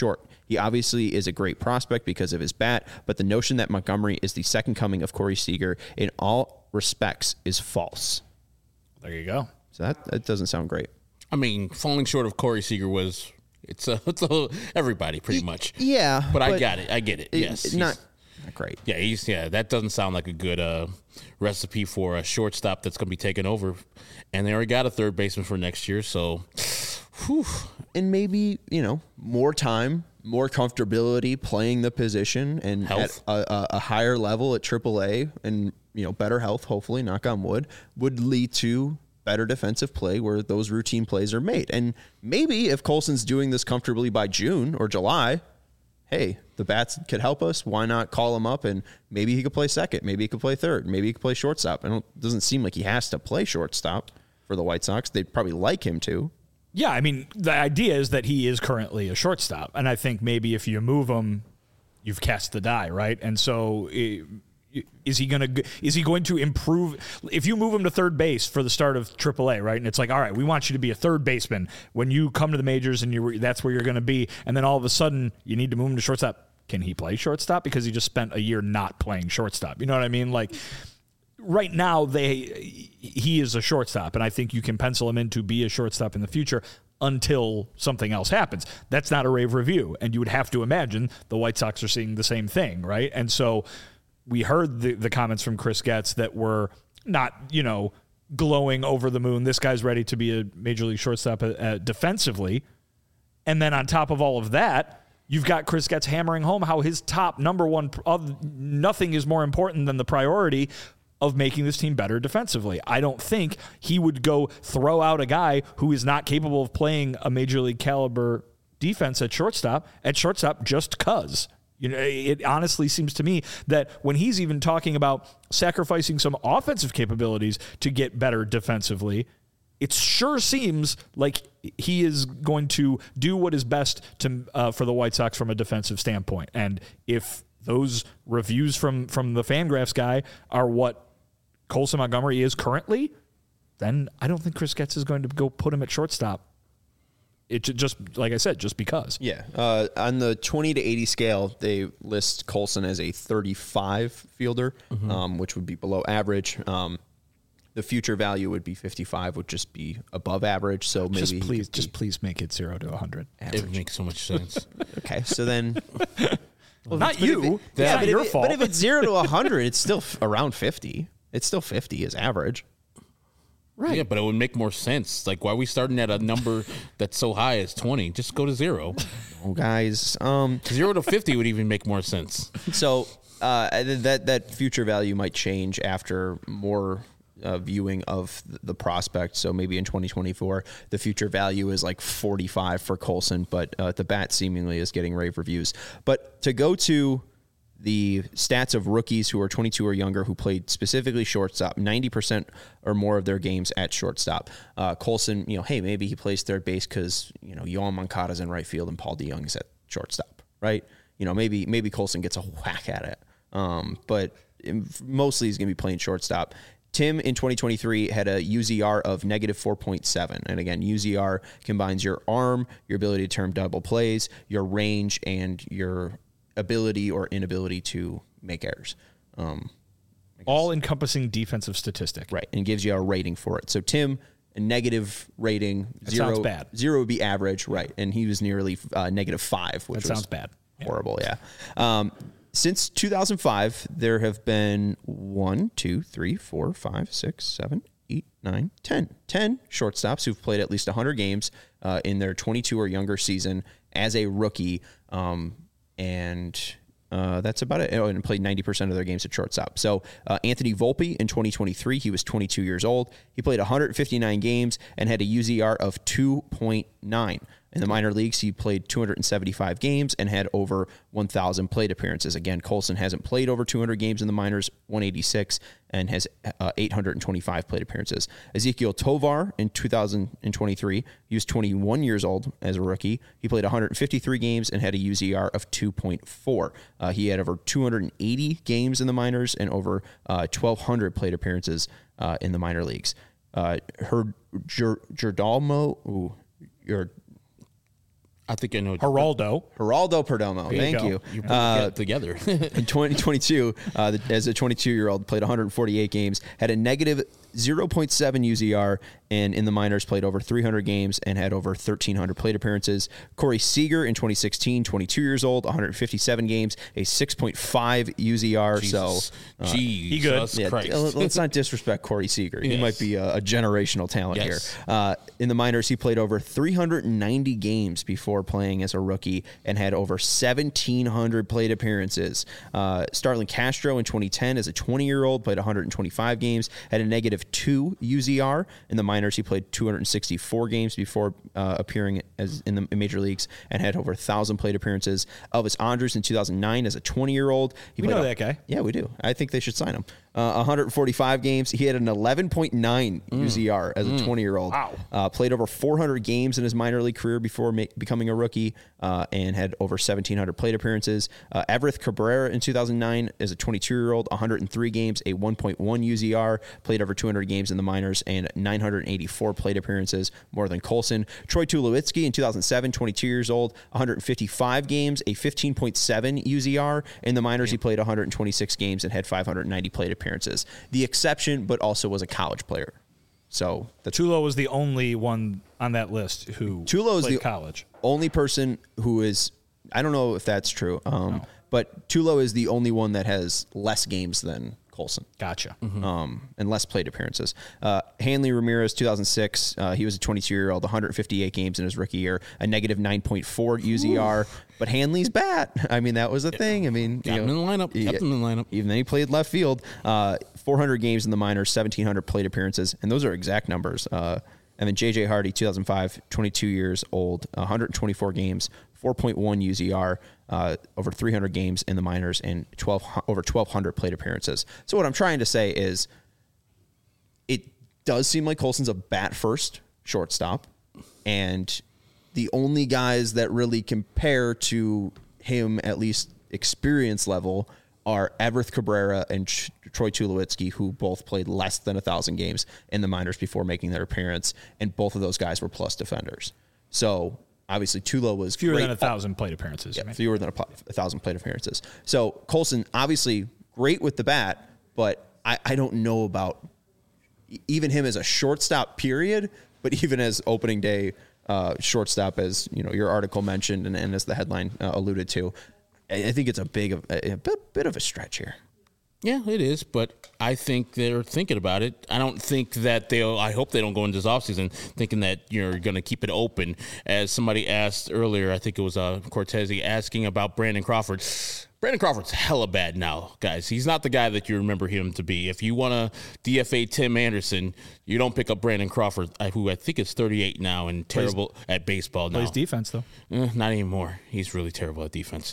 He obviously is a great prospect because of his bat, but the notion that Montgomery is the second coming of Corey Seager in all respects is false. There you go. So that doesn't sound great. I mean, falling short of Corey Seager was it's everybody pretty much. Yeah, but I got it. I get it. Yes, not great. Yeah, that doesn't sound like a good recipe for a shortstop that's going to be taken over. And they already got a third baseman for next year, so. Whew. And maybe more time, more comfortability playing the position, and health. At a higher level at AAA, and better health. Hopefully, knock on wood, would lead to better defensive play where those routine plays are made. And maybe if Colson's doing this comfortably by June or July, hey, the bats could help us. Why not call him up and maybe he could play second, maybe he could play third, maybe he could play shortstop. It doesn't seem like he has to play shortstop for the White Sox. They'd probably like him to. Yeah, I mean, the idea is that he is currently a shortstop, and I think maybe if you move him, you've cast the die, right? And so is he going to improve if you move him to third base for the start of AAA, right? And it's like, all right, we want you to be a third baseman when you come to the majors, and that's where you're going to be. And then all of a sudden, you need to move him to shortstop. Can he play shortstop because he just spent a year not playing shortstop? You know what I mean? Like right now, he is a shortstop, and I think you can pencil him in to be a shortstop in the future until something else happens. That's not a rave review, and you would have to imagine the White Sox are seeing the same thing, right? And so we heard the comments from Chris Getz that were not, glowing over the moon. This guy's ready to be a major league shortstop defensively. And then on top of all of that, you've got Chris Getz hammering home how his top number one of nothing is more important than the priority of making this team better defensively. I don't think he would go throw out a guy who is not capable of playing a major league caliber defense at shortstop just because. It honestly seems to me that when he's even talking about sacrificing some offensive capabilities to get better defensively, it sure seems like he is going to do what is best for the White Sox from a defensive standpoint. And if those reviews from the Fangraphs guy are what Colson Montgomery is currently, then I don't think Chris Getz is going to go put him at shortstop. It just, like I said, just because. Yeah. On the 20 to 80 scale, they list Colson as a 35 fielder, which would be below average. The future value would be 55, would just be above average. So maybe please make it 0 to 100. Average. It makes so much sense. Okay, so then, well, not you. That's not your fault. But if it's 0 to 100, it's still around 50. It's still 50 is average. Right. Yeah, but it would make more sense. Like, why are we starting at a number that's so high as 20? Just go to 0. Oh, guys. 0 to 50 would even make more sense. So that future value might change after more viewing of the prospect. So maybe in 2024, the future value is like 45 for Colson, but the bat seemingly is getting rave reviews. But to go to the stats of rookies who are 22 or younger who played specifically shortstop, 90% or more of their games at shortstop. Colson, hey, maybe he plays third base because, Yohan Moncada's in right field and Paul DeJong's at shortstop, right? Maybe Colson gets a whack at it. But mostly he's going to be playing shortstop. Tim in 2023 had a UZR of negative 4.7. And again, UZR combines your arm, your ability to turn double plays, your range, and your ability or inability to make errors. All-encompassing defensive statistic. Right, and gives you a rating for it. So Tim, a negative rating, that sounds bad. 0 would be average, right, and he was nearly negative 5, which that sounds bad. Horrible, yeah. Since 2005, there have been 10 shortstops who've played at least 100 games in their 22 or younger season as a rookie, and that's about it. And played 90% of their games at shortstop. So Anthony Volpe in 2023, he was 22 years old. He played 159 games and had a UZR of 2.9. In the minor leagues, he played 275 games and had over 1,000 plate appearances. Again, Colson hasn't played over 200 games in the minors, 186, and has 825 plate appearances. Ezequiel Tovar in 2023, he was 21 years old as a rookie. He played 153 games and had a UZR of 2.4. He had over 280 games in the minors and over 1,200 plate appearances in the minor leagues. I think I know. Geraldo Perdomo. Thank you. You get together. In 2022, as a 22-year-old, played 148 games, had a negative 0.7 UZR, and in the minors played over 300 games and had over 1,300 plate appearances. Corey Seager in 2016, 22 years old, 157 games, a 6.5 UZR. Jesus. He good. Yeah, let's not disrespect Corey Seager. He might be a generational talent here. In the minors, he played over 390 games before playing as a rookie and had over 1,700 plate appearances. Starlin Castro in 2010 as a 20-year-old played 125 games, had a negative 2 UZR. In the minors, he played 264 games before appearing as in the major leagues and had over 1,000 plate appearances. Elvis Andrus in 2009 as a 20-year-old. We know that guy. Yeah, we do. I think they should sign him. 145 games. He had an 11.9 UZR as a 20-year-old. Wow. Played over 400 games in his minor league career before becoming a rookie and had over 1,700 plate appearances. Everth Cabrera in 2009 as a 22-year-old, 103 games, a 1.1 UZR. Played over 200 games in the minors and 984 plate appearances, more than Colson. Troy Tulowitzki in 2007, 22 years old, 155 games, a 15.7 UZR. In the minors, he played 126 games and had 590 plate appearances. The exception, but also was a college player. So Tulo was the only one on that list who played college. Only person who is, I don't know if that's true, but Tulo is the only one that has less games than Colson. Gotcha. And less plate appearances. Hanley Ramirez, 2006, he was a 22-year-old, 158 games in his rookie year, a negative 9.4 UZR. But Hanley's bat. I mean, that was a thing. I mean, Kept him in the lineup. Even then, he played left field. 400 games in the minors, 1,700 plate appearances, and those are exact numbers. And then J.J. Hardy, 2005, 22 years old, 124 games, 4.1 UZR, over 300 games in the minors, and over 1,200 plate appearances. So what I'm trying to say is it does seem like Colson's a bat-first shortstop, and the only guys that really compare to him, at least experience level, are Everth Cabrera and Troy Tulowitzki, who both played less than 1,000 games in the minors before making their appearance, and both of those guys were plus defenders. So obviously Tulo was fewer great. than 1,000 plate appearances. Yeah, fewer than 1,000 plate appearances. So Colson, obviously great with the bat, but I don't know about even him as a shortstop period, but even as opening day shortstop, as you know, your article mentioned and as the headline alluded to. I think it's a bit of a stretch here. Yeah, it is, but I think they're thinking about it. I don't think that I hope they don't go into this offseason thinking that you're going to keep it open. As somebody asked earlier, I think it was Cortese asking about Brandon Crawford. Brandon Crawford's hella bad now, guys. He's not the guy that you remember him to be. If you want to DFA Tim Anderson, you don't pick up Brandon Crawford, who I think is 38 now and terrible at baseball now. Plays defense, though. Not anymore. He's really terrible at defense.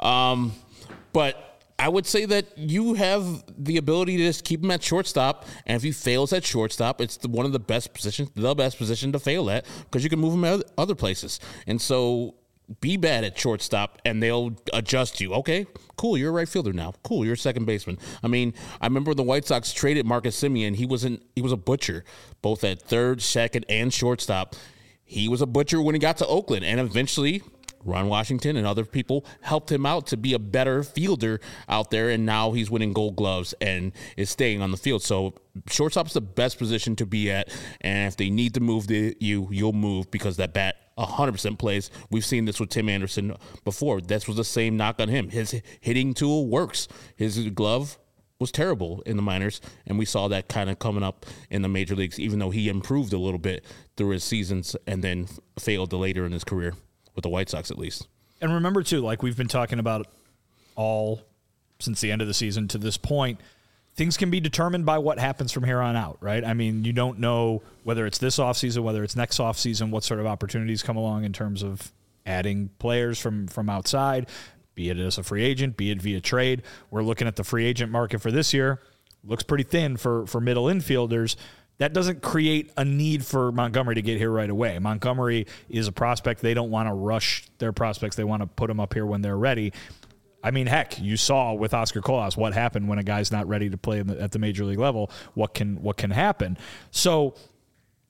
But I would say that you have the ability to just keep him at shortstop, and if he fails at shortstop, it's one of the best positions to fail at, because you can move him at other places. And so be bad at shortstop, and they'll adjust you. Okay, cool, you're a right fielder now. Cool, you're a second baseman. I mean, I remember the White Sox traded Marcus Semien. He was a butcher, both at third, second, and shortstop. He was a butcher when he got to Oakland, and eventually Ron Washington and other people helped him out to be a better fielder out there, and now he's winning Gold Gloves and is staying on the field. So shortstop's the best position to be at, and if they need to move you'll move, because that bat 100% plays. We've seen this with Tim Anderson before. This was the same knock on him. His hitting tool works. His glove was terrible in the minors, and we saw that kind of coming up in the major leagues, even though he improved a little bit through his seasons and then failed later in his career, with the White Sox at least. And remember, too, like we've been talking about all since the end of the season to this point, things can be determined by what happens from here on out, right? I mean, you don't know whether it's this offseason, whether it's next offseason, what sort of opportunities come along in terms of adding players from outside, be it as a free agent, be it via trade. We're looking at the free agent market for this year. Looks pretty thin for middle infielders. That doesn't create a need for Montgomery to get here right away. Montgomery is a prospect. They don't want to rush their prospects. They want to put them up here when they're ready. I mean, heck, you saw with Oscar Colas what happened when a guy's not ready to play at the major league level. What can happen? So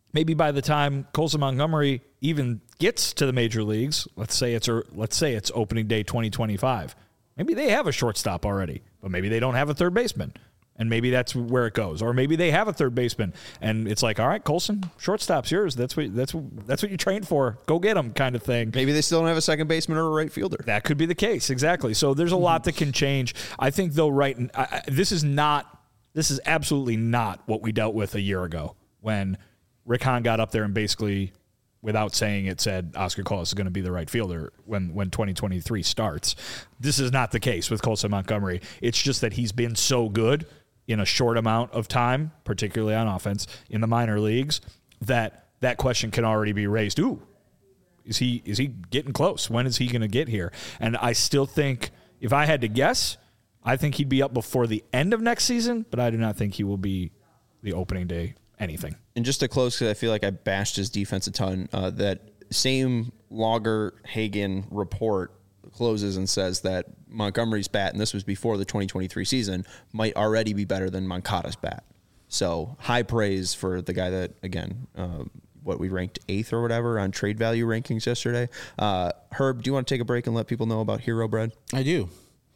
maybe by the time Colson Montgomery even gets to the major leagues, let's say it's opening day 2025, maybe they have a shortstop already, but maybe they don't have a third baseman. And maybe that's where it goes. Or maybe they have a third baseman, and it's like, all right, Colson, shortstop's yours. That's what you trained for. Go get him, kind of thing. Maybe they still don't have a second baseman or a right fielder. That could be the case, exactly. So there's a lot that can change. I think, though, this is absolutely not what we dealt with a year ago when Rick Hahn got up there and basically, without saying it, said Oscar Colas is going to be the right fielder when 2023 starts. This is not the case with Colson Montgomery. It's just that he's been so good in a short amount of time, particularly on offense in the minor leagues, that question can already be raised. Ooh, is he getting close? When is he going to get here? And I still think, if I had to guess, I think he'd be up before the end of next season, but I do not think he will be the opening day anything. And just to close, because I feel like I bashed his defense a ton, that same Logger Hagen report closes and says that Montgomery's bat, and this was before the 2023 season, might already be better than Moncada's bat. So high praise for the guy that, again, we ranked 8th or whatever on trade value rankings yesterday. Herb, do you want to take a break and let people know about Hero Bread? I do.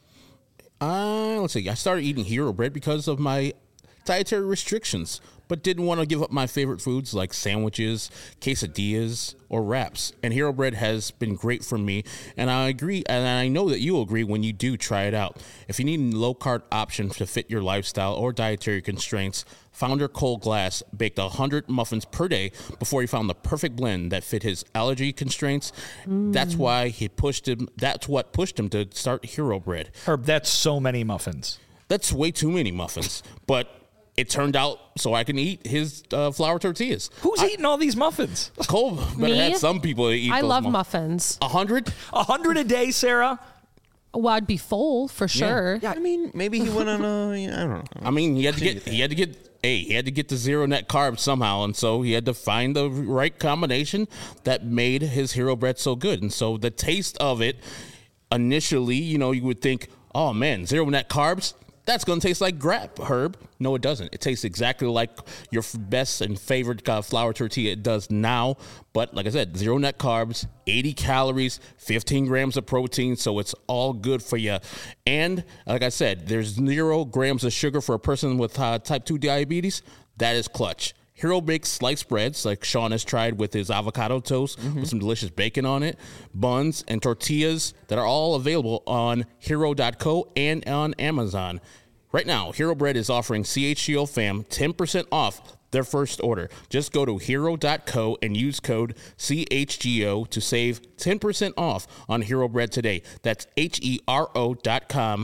Let's see. I started eating Hero Bread because of my dietary restrictions, but didn't want to give up my favorite foods like sandwiches, quesadillas, or wraps. And Hero Bread has been great for me, and I agree, and I know that you'll agree when you do try it out. If you need a low-carb option to fit your lifestyle or dietary constraints, founder Cole Glass baked 100 muffins per day before he found the perfect blend that fit his allergy constraints. That's what pushed him to start Hero Bread. Herb, that's so many muffins. That's way too many muffins, but it turned out so I can eat his flour tortillas. Who's eating all these muffins? Cole better have some people to eat. I love muffins. 100? 100 a day, Sarah? Well, I'd be full for sure. Yeah, I mean, maybe he went on I don't know. I mean, he had to get the zero net carbs somehow, and so he had to find the right combination that made his Hero Bread so good. And so the taste of it, initially, you would think, oh man, zero net carbs, that's going to taste like crap, Herb. No, it doesn't. It tastes exactly like your best and favorite flour tortilla. It does now. But like I said, zero net carbs, 80 calories, 15 grams of protein. So it's all good for you. And like I said, there's 0 grams of sugar for a person with type 2 diabetes. That is clutch. Hero bakes sliced breads, like Sean has tried with his avocado toast with some delicious bacon on it, buns, and tortillas that are all available on Hero.co and on Amazon. Right now, Hero Bread is offering CHGO fam 10% off their first order. Just go to Hero.co and use code CHGO to save 10% off on Hero Bread today. That's HERO.com,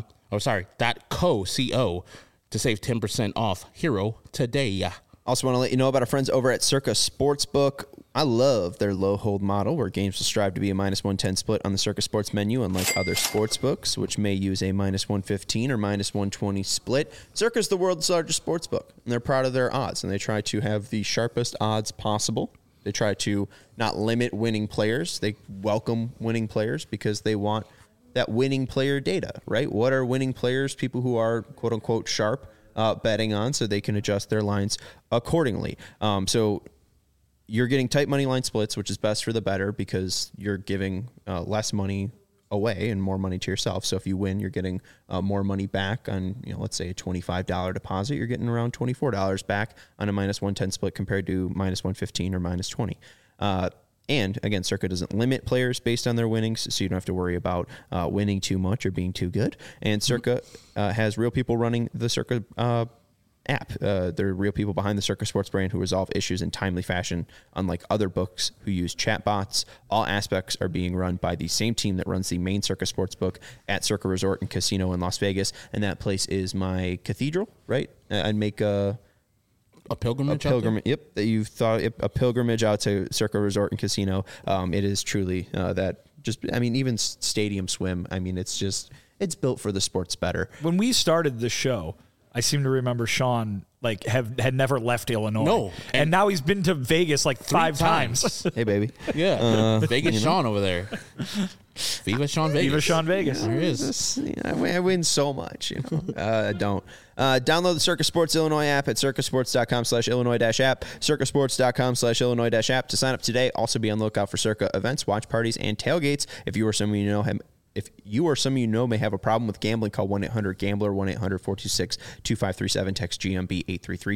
.co to save 10% off Hero today. Also want to let you know about our friends over at Circa Sportsbook. I love their low hold model where games will strive to be a -110 split on the Circa Sports menu, unlike other sports books, which may use a -115 or -120 split. Circa is the world's largest sports book, and they're proud of their odds, and they try to have the sharpest odds possible. They try to not limit winning players. They welcome winning players because they want that winning player data, right? What are winning players, people who are quote-unquote sharp, betting on, so they can adjust their lines accordingly. So you're getting tight money line splits, which is best for the better because you're giving less money away and more money to yourself. So if you win, you're getting more money back on, let's say a $25 deposit. You're getting around $24 back on a -110 split compared to -115 or -20. And again, Circa doesn't limit players based on their winnings, so you don't have to worry about winning too much or being too good. And Circa has real people running the Circa app. There are real people behind the Circa Sports brand who resolve issues in timely fashion, unlike other books who use chatbots. All aspects are being run by the same team that runs the main Circa Sports book at Circa Resort and Casino in Las Vegas, and that place is my cathedral, right? I'd make a pilgrimage. Yep. That you thought a pilgrimage out to Circa Resort and Casino. It is truly even Stadium Swim. I mean, it's built for the sports better. When we started the show, I seem to remember Sean like had never left Illinois. No. And now he's been to Vegas like 5 times. Hey, baby. Yeah. Vegas Sean over there. Viva Sean Vegas. Viva Sean Vegas. There he is. I win so much, I don't. Download the Circa Sports Illinois app at circasports.com/Illinois-app, circasports.com/Illinois-app to sign up today. Also be on the lookout for Circa events, watch parties, and tailgates. If you or some of you know may have a problem with gambling, call 1-800-GAMBLER, 1-800-426-2537, text GMB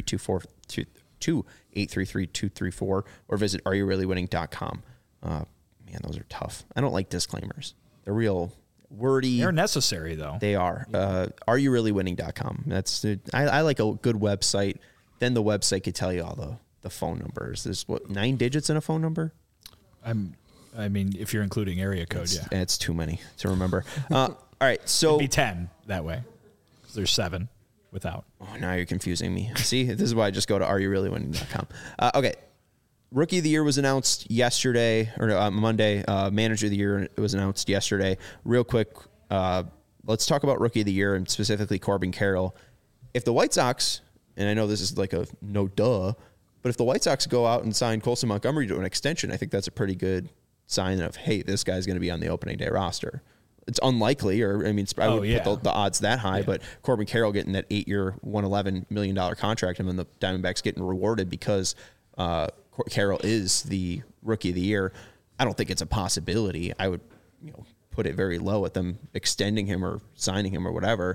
833-234, or visit areyourreallywinning.com. Man, those are tough. I don't like disclaimers. They're real wordy. They're necessary, though. They are. Areyourreallywinning.com. That's I like a good website. Then the website could tell you all the phone numbers. There's 9 digits in a phone number? I mean, if you're including area code, yeah. It's too many to remember. All right, so... It'd be 10 that way. 'Cause there's 7 without. Oh, now you're confusing me. See, this is why I just go to areyourreallywinning.com. Okay. Rookie of the Year was announced yesterday, or Monday. Manager of the Year was announced yesterday. Real quick, let's talk about Rookie of the Year and specifically Corbin Carroll. If the White Sox, and I know this is like a no duh, but if the White Sox go out and sign Colson Montgomery to an extension, I think that's a pretty good sign of, hey, this guy's going to be on the opening day roster. It's unlikely, or I mean, I would put the odds that high, but Corbin Carroll getting that 8-year, $111 million contract, and then the Diamondbacks getting rewarded because Carroll is the Rookie of the Year. I don't think it's a possibility. I would, put it very low at them extending him or signing him or whatever.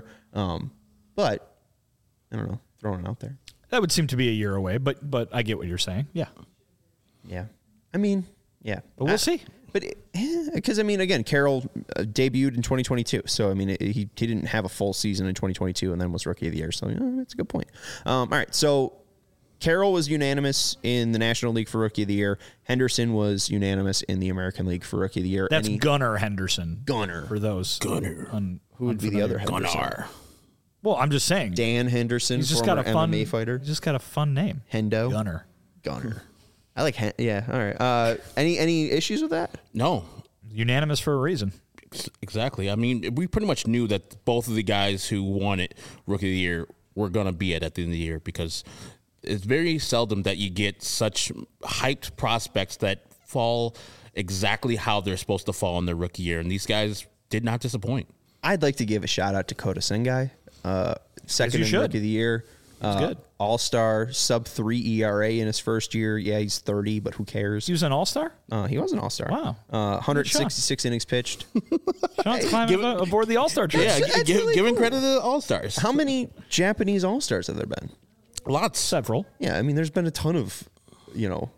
But I don't know, throwing it out there. That would seem to be a year away, but I get what you're saying. Yeah. Yeah. I mean, yeah. But we'll see. But because, again, Carroll debuted in 2022. So, he didn't have a full season in 2022 and then was Rookie of the Year. So, that's a good point. All right. So, Carroll was unanimous in the National League for Rookie of the Year. Henderson was unanimous in the American League for Rookie of the Year. That's Gunnar Henderson. Gunnar. For those. Gunnar. Who would be the other Henderson? Gunnar. Well, I'm just saying. Dan Henderson, he's just got a fun MMA fighter. He's just got a fun name. Hendo. Gunnar. I like, yeah. All right. Any issues with that? No. Unanimous for a reason. Exactly. We pretty much knew that both of the guys who won it Rookie of the Year were going to be at the end of the year, because it's very seldom that you get such hyped prospects that fall exactly how they're supposed to fall in their rookie year. And these guys did not disappoint. I'd like to give a shout out to Kota Sengai, second in Rookie of the Year. Good. All-star, sub-3 ERA in his first year. Yeah, he's 30, but who cares? He was an all-star? He was an all-star. Wow. 166 innings pitched. Sean's climbing aboard the all-star train. Yeah, giving credit to the all-stars. How many Japanese all-stars have there been? Lots. Several. Yeah, there's been a ton of, Andrew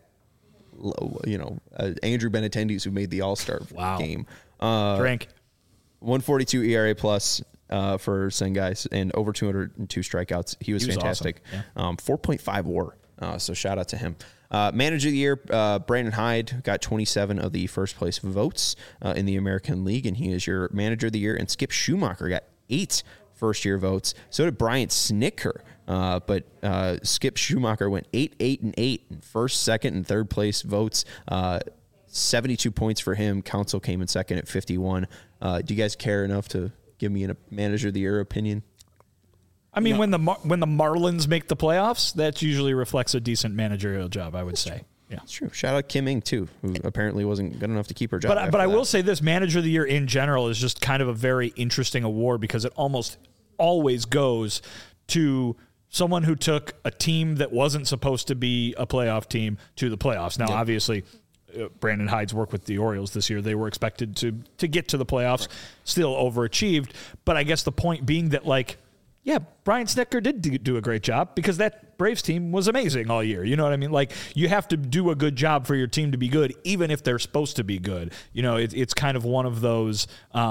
Benintendi's who made the all-star game. Drink. 142 ERA plus for Sengai and over 202 strikeouts. He was fantastic. Awesome. Yeah. 4.5 WAR. So shout out to him. Manager of the Year, Brandon Hyde got 27 of the first place votes in the American League, and he is your Manager of the Year. And Skip Schumacher got 8 first-year votes. So did Brian Snitker. But Skip Schumacher went 8-8-8 in first, second, and third place votes. 72 points for him. Council came in second at 51. Do you guys care enough to give me a Manager of the Year opinion? When the Marlins make the playoffs, that usually reflects a decent managerial job, I would say. Yeah, it's true. Shout out Kim Ng too, who apparently wasn't good enough to keep her job. But I will say this: Manager of the Year in general is just kind of a very interesting award, because it almost always goes to someone who took a team that wasn't supposed to be a playoff team to the playoffs. Now, obviously, Brandon Hyde's work with the Orioles this year, they were expected to get to the playoffs, still overachieved. But I guess the point being that, Brian Snitker did do a great job, because that Braves team was amazing all year. You know what I mean? You have to do a good job for your team to be good, even if they're supposed to be good. It's kind of one of those,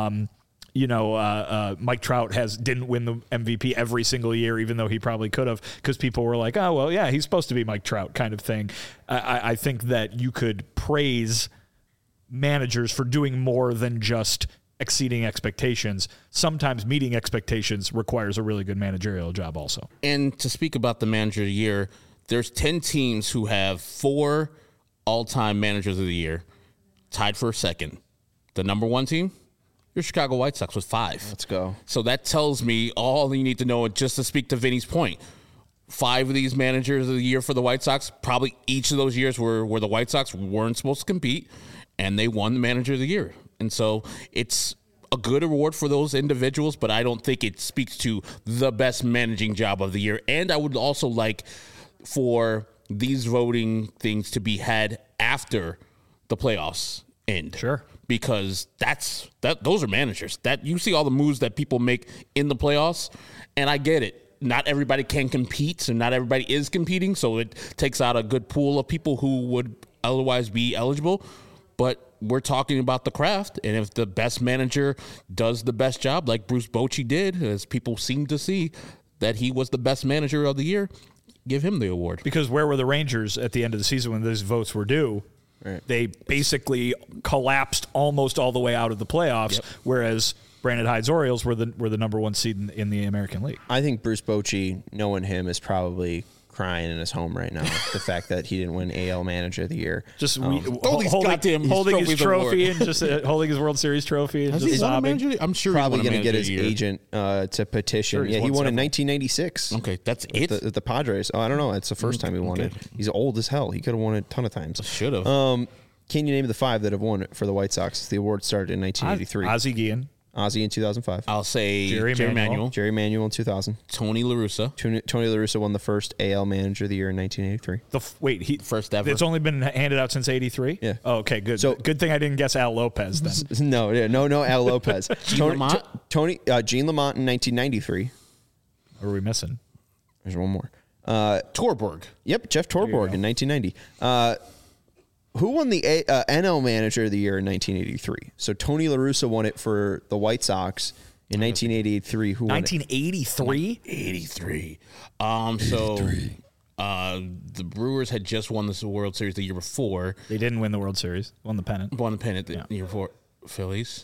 Mike Trout didn't win the MVP every single year, even though he probably could have, because people were like, oh, well, yeah, he's supposed to be Mike Trout kind of thing. I think that you could praise managers for doing more than just exceeding expectations. Sometimes meeting expectations requires a really good managerial job also. And to speak about the Manager of the Year, there's 10 teams who have 4 all-time Managers of the Year, tied for second. The number 1 team, your Chicago White Sox, with 5. Let's go. So that tells me all you need to know, just to speak to Vinny's point. 5 of these managers of the year for the White Sox, probably each of those years where the White Sox weren't supposed to compete, and they won the manager of the year. And so it's a good award for those individuals, but I don't think it speaks to the best managing job of the year. And I would also like for these voting things to be had after the playoffs end. Sure. Because those are managers. That you see all the moves that people make in the playoffs, and I get it. Not everybody can compete, and not everybody is competing, so it takes out a good pool of people who would otherwise be eligible. But we're talking about the craft, and if the best manager does the best job, like Bruce Bochy did, as people seem to see that he was the best manager of the year, give him the award. Because where were the Rangers at the end of the season when those votes were due? Right. They basically collapsed almost all the way out of the playoffs, whereas Brandon Hyde's Orioles were the number 1 seed in the American League. I think Bruce Bochy, knowing him, is probably crying in his home right now. The fact that he didn't win AL Manager of the Year. Just holding his trophy and just holding his World Series trophy and just sobbing. I'm sure probably going to get his agent to petition. He won in 1996. Okay, that's it. The Padres. Oh, I don't know. It's the first time he won it. He's old as hell. He could have won it a ton of times. Should have. Can you name the 5 that have won it for the White Sox? The award started in 1983. Ozzie Guillen. Ozzie in 2005. I'll say Jerry Manuel. Jerry Manuel in 2000. Tony La Russa. Tony La Russa won the first AL Manager of the Year in 1983. First ever. It's only been handed out since '83. Yeah. Oh, okay, good. So good thing I didn't guess Al Lopez then. No Al Lopez. Gene Lamont in 1993. What are we missing? There's one more. Torborg. Yep, Jeff Torborg in 1990. Who won the NL Manager of the Year in 1983? So Tony La Russa won it for the White Sox in 1983. Who won 1983? 83. The Brewers had just won this World Series the year before. They didn't win the World Series. Won the pennant the year before. Phillies?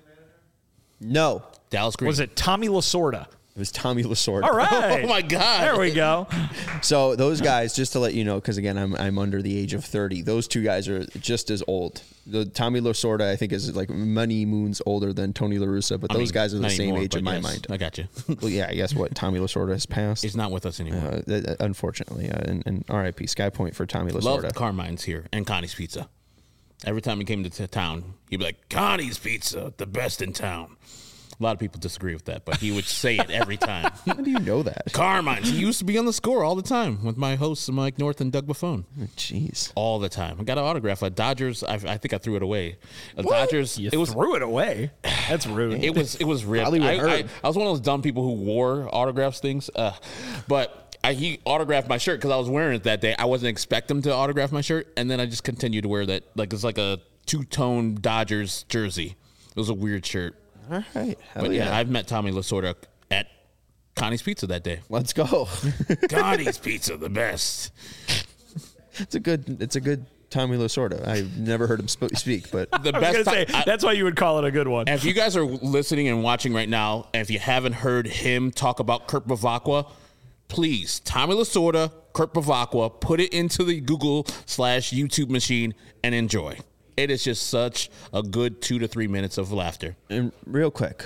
No. Dallas Green. Was it Tommy Lasorda? It was Tommy Lasorda. All right. Oh, my God. There we go. So those guys, just to let you know, because, again, I'm under the age of 30, those 2 guys are just as old. The Tommy Lasorda, I think, is like many moons older than Tony La Russa, but those guys are the same age in my mind. I got you. Well, yeah, I guess what? Tommy Lasorda has passed. He's not with us anymore. Unfortunately. And RIP, Sky Point for Tommy Lasorda. Loved Carmine's here and Connie's Pizza. Every time he came to town, he'd be like, Connie's Pizza, the best in town. A lot of people disagree with that, but he would say it every time. How do you know that? Carmine's. He used to be on the Score all the time with my hosts, Mike North and Doug Buffone. Jeez. All the time. I got an autograph. A Dodgers. I think I threw it away. Dodgers. You threw it away? That's rude. It was ripped. I was one of those dumb people who wore autographs things. But he autographed my shirt because I was wearing it that day. I wasn't expecting him to autograph my shirt, and then I just continued to wear that. Like it's like a 2-tone Dodgers jersey. It was a weird shirt. All right. But yeah, I've met Tommy Lasorda at Connie's Pizza that day. Let's go. Connie's Pizza, the best. It's a good Tommy Lasorda. I've never heard him speak, but the I was going to say, that's why you would call it a good one. And if you guys are listening and watching right now, and if you haven't heard him talk about Kurt Bevacqua, please, Tommy Lasorda, Kurt Bevacqua, put it into the Google/YouTube machine and enjoy. It is just such a good 2 to 3 minutes of laughter. And real quick,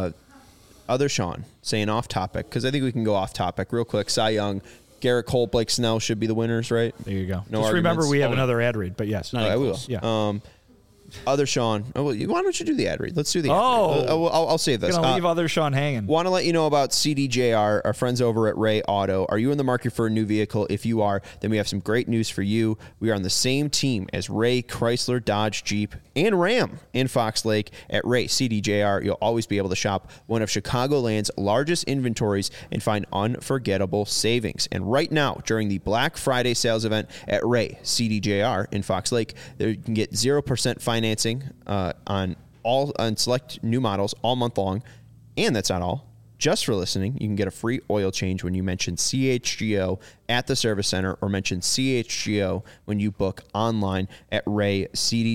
other Sean saying off topic, because I think we can go off topic real quick. Cy Young, Garrett Cole, Blake Snell should be the winners, right? There you go. No Just arguments. remember we have another ad read, but yes. I will. Yeah. Other Sean. Oh, well, why don't you do the ad read? Let's do the ad read. I'll save this. Gonna leave other Sean hanging. Want to let you know about CDJR, our friends over at Ray Auto. Are you in the market for a new vehicle? If you are, then we have some great news for you. We are on the same team as Ray, Chrysler, Dodge, Jeep, and Ram in Fox Lake. At Ray CDJR, you'll always be able to shop one of Chicagoland's largest inventories and find unforgettable savings. And right now, during the Black Friday sales event at Ray CDJR in Fox Lake, there you can get 0% financing on select new models all month long. And that's not all. Just for listening, you can get a free oil change when you mention CHGO at the service center or mention CHGO when you book online at Ray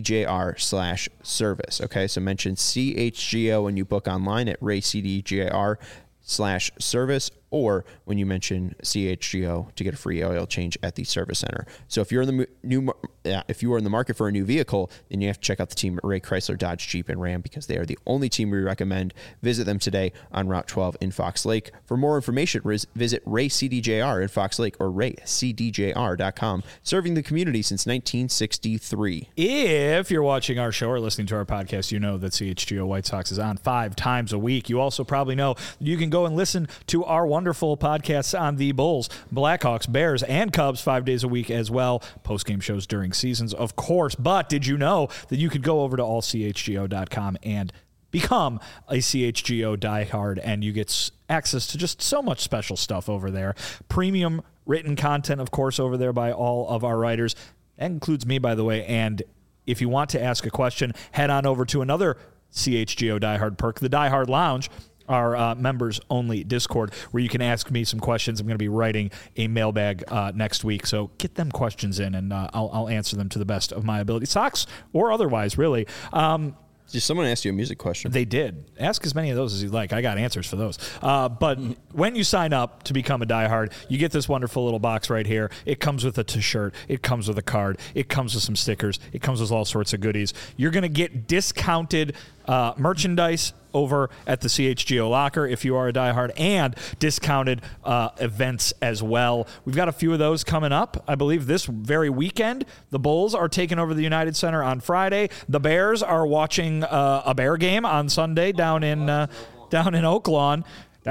CDJR/service. Okay, so mention CHGO when you book online at Ray CDJR/service or when you mention CHGO to get a free oil change at the service center. So if you're in the if you are in the market for a new vehicle, then you have to check out the team at Ray Chrysler, Dodge, Jeep, and Ram, because they are the only team we recommend. Visit them today on Route 12 in Fox Lake. For more information, visit Ray CDJR in Fox Lake or raycdjr.com, serving the community since 1963. If you're watching our show or listening to our podcast, you know that CHGO White Sox is on 5 times a week. You also probably know you can go and listen to our wonderful podcasts on the Bulls, Blackhawks, Bears, and Cubs 5 days a week as well. Post-game shows during seasons, of course. But did you know that you could go over to allchgo.com and become a CHGO diehard, and you get access to just so much special stuff over there. Premium written content, of course, over there by all of our writers. That includes me, by the way. And if you want to ask a question, head on over to another CHGO diehard perk, the Diehard Lounge, our members-only Discord, where you can ask me some questions. I'm going to be writing a mailbag next week, so get them questions in, and I'll answer them to the best of my ability. Sox or otherwise, really. Did someone ask you a music question? They did. Ask as many of those as you'd like. I got answers for those. But when you sign up to become a diehard, you get this wonderful little box right here. It comes with a t-shirt. It comes with a card. It comes with some stickers. It comes with all sorts of goodies. You're going to get discounted merchandise over at the CHGO locker if you are a diehard, and discounted events as well. We've got a few of those coming up. I believe this very weekend, the Bulls are taking over the United Center on Friday. The Bears are watching a Bear game on Sunday down in Oaklawn.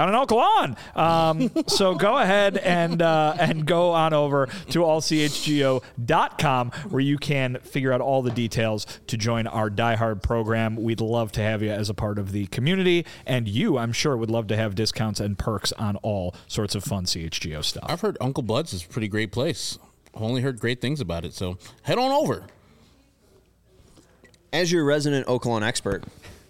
So go ahead and go on over to allchgo.com, where you can figure out all the details to join our diehard program. We'd love to have you as a part of the community, and you, I'm sure, would love to have discounts and perks on all sorts of fun CHGO stuff. I've heard Uncle Bud's is a pretty great place. I've only heard great things about it, so head on over. As your resident Oaklawn expert,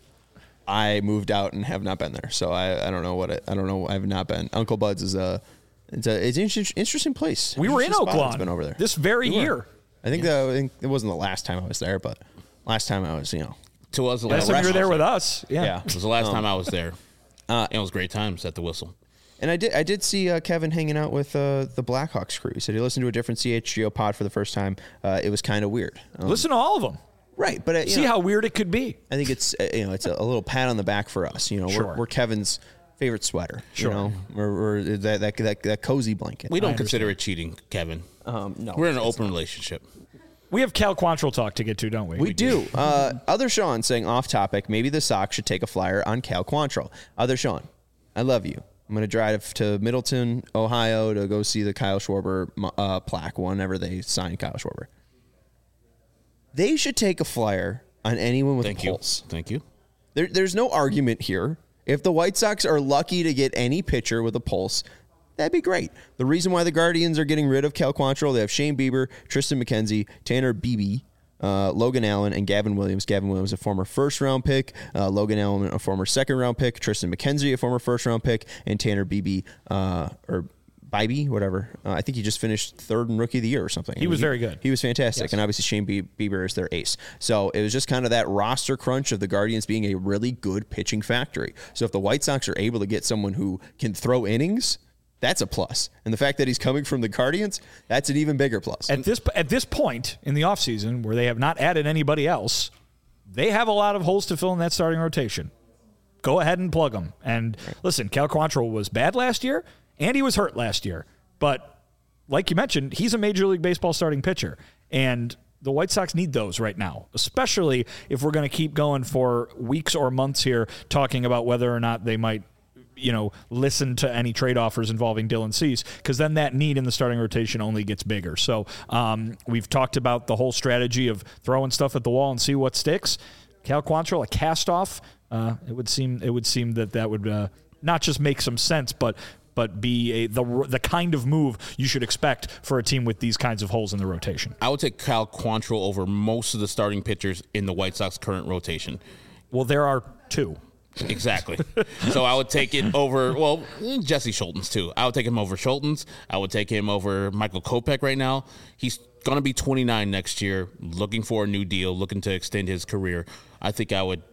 I moved out and have not been there, so I don't know I don't know. I have not been. Uncle Bud's is it's an interesting place. We were in Oaklawn. Been over there this very year. I think it wasn't the last time I was there, but last time I was, To us, last time you were there with us. Yeah. It was the last time I was there. And it was great times at the Whistle. And I did see Kevin hanging out with the Blackhawks crew. He said he listened to a different CHGO pod for the first time. It was kind of weird. Listen to all of them. Right, but see how weird it could be. I think it's it's a little pat on the back for us. Sure. We're Kevin's favorite sweater. Sure. We're that cozy blanket. We don't consider it cheating, Kevin. No, we're in an open relationship. We have Cal Quantrill talk to get to, don't we? We do. Other Sean saying off topic, maybe the Sox should take a flyer on Cal Quantrill. Other Sean, I love you. I'm going to drive to Middleton, Ohio to go see the Kyle Schwarber plaque whenever they sign Kyle Schwarber. They should take a flyer on anyone with a pulse. Thank you. There's no argument here. If the White Sox are lucky to get any pitcher with a pulse, that'd be great. The reason why the Guardians are getting rid of Cal Quantrill, they have Shane Bieber, Tristan McKenzie, Tanner Beebe, Logan Allen, and Gavin Williams. Gavin Williams, a former first-round pick. Logan Allen, a former second-round pick. Tristan McKenzie, a former first-round pick. And Tanner Beebe, or Bybee, whatever. I think he just finished third in Rookie of the Year or something. He was very good. He was fantastic. Yes. And obviously Shane Bieber is their ace. So it was just kind of that roster crunch of the Guardians being a really good pitching factory. So if the White Sox are able to get someone who can throw innings, that's a plus. And the fact that he's coming from the Guardians, that's an even bigger plus. At this point in the offseason, where they have not added anybody else, they have a lot of holes to fill in that starting rotation. Go ahead and plug them. And listen, Cal Quantrill was bad last year, and he was hurt last year. But like you mentioned, he's a Major League Baseball starting pitcher. And the White Sox need those right now, especially if we're going to keep going for weeks or months here talking about whether or not they might listen to any trade offers involving Dylan Cease, because then that need in the starting rotation only gets bigger. So we've talked about the whole strategy of throwing stuff at the wall and see what sticks. Cal Quantrill, a cast-off, it would seem that would not just make some sense, but be the kind of move you should expect for a team with these kinds of holes in the rotation. I would take Cal Quantrill over most of the starting pitchers in the White Sox current rotation. Well, there are two. Exactly. So I would take it over, Jesse Schultens too. I would take him over Schultens. I would take him over Michael Kopech right now. He's going to be 29 next year, looking for a new deal, looking to extend his career. I think I would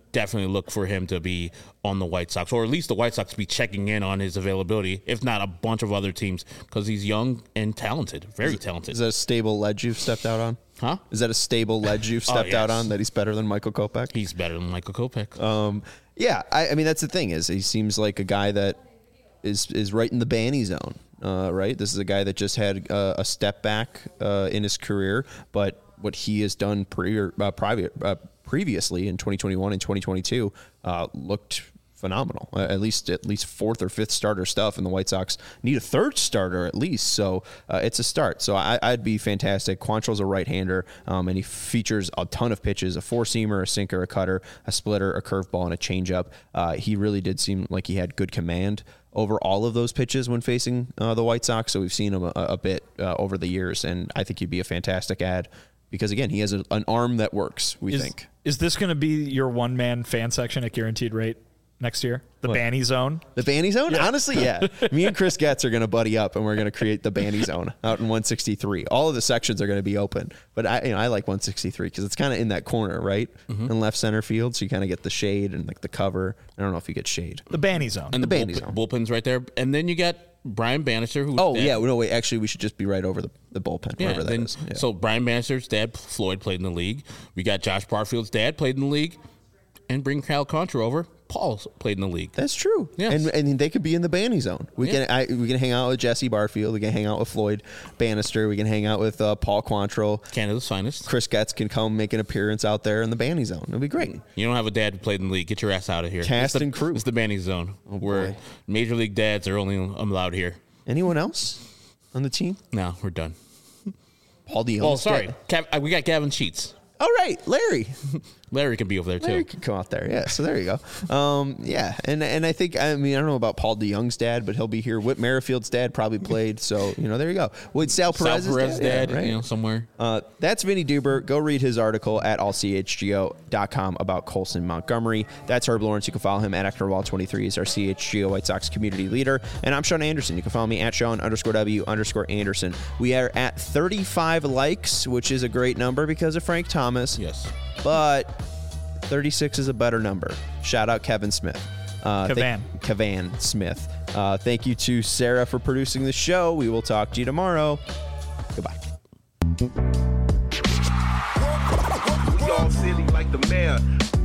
definitely look for him to be on the White Sox, or at least the White Sox be checking in on his availability, if not a bunch of other teams, because he's young and talented, very talented. Is that a stable ledge you've stepped out on? Huh? Is that a stable ledge you've stepped out on, that he's better than Michael Kopech? He's better than Michael Kopech. Yeah, I mean, that's the thing, is he seems like a guy that is right in the Banny zone, right? This is a guy that just had a step back in his career, but what he has done previously in 2021 and 2022 looked phenomenal. At least fourth or fifth starter stuff, and the White Sox need a third starter at least. So it's a start. So I'd be fantastic. Quantrill's a right-hander, and he features a ton of pitches: a four-seamer, a sinker, a cutter, a splitter, a curveball, and a changeup. He really did seem like he had good command over all of those pitches when facing the White Sox. So we've seen him a bit over the years, and I think he'd be a fantastic add. Because, again, he has an arm that works, we think. Is this going to be your one-man fan section at Guaranteed Rate next year? The Banny Zone? The Banny Zone? Yeah. Honestly, yeah. Me and Chris Getz are going to buddy up, and we're going to create the Banny Zone out in 163. All of the sections are going to be open. But I like 163 because it's kind of in that corner, right? Mm-hmm. In left center field, so you kind of get the shade and like the cover. I don't know if you get shade. The Banny Zone. And the Banny Zone. Bullpen's right there. And then you got Brian Bannister, who's no, wait. Actually, we should just be right over the bullpen, wherever that is. Yeah. So Brian Bannister's dad, Floyd, played in the league. We got Josh Barfield's dad, played in the league. And bring Kyle Contra over. Paul played in the league. That's true. Yes. And they could be in the Banny Zone. We can hang out with Jesse Barfield. We can hang out with Floyd Bannister. We can hang out with Paul Quantrill. Canada's finest. Chris Getz can come make an appearance out there in the Banny Zone. It'll be great. You don't have a dad who played in the league. Get your ass out of here. Cast and crew. It's the Banny Zone, where Major League dads are only allowed here. Anyone else on the team? No, we're done. Paul DeYoung. Oh, sorry. We got Gavin Sheets. All right, Larry. Larry can be over there, too. Larry can come out there, yeah. So there you go. Yeah, and I think, I don't know about Paul DeYoung's dad, but he'll be here. Whit Merrifield's dad probably played, so, there you go. With Sal Perez's dad, yeah, right? Somewhere. That's Vinny Duber. Go read his article at allchgo.com about Colson Montgomery. That's Herb Lawrence. You can follow him at ActorWall23. He's our CHGO White Sox community leader. And I'm Sean Anderson. You can follow me at Sean_W_Anderson. We are at 35 likes, which is a great number because of Frank Thomas. Yes. But 36 is a better number. Shout out Kevin Smith. Kevan Smith. Thank you to Sarah for producing the show. We will talk to you tomorrow. Goodbye. We all silly like the mayor.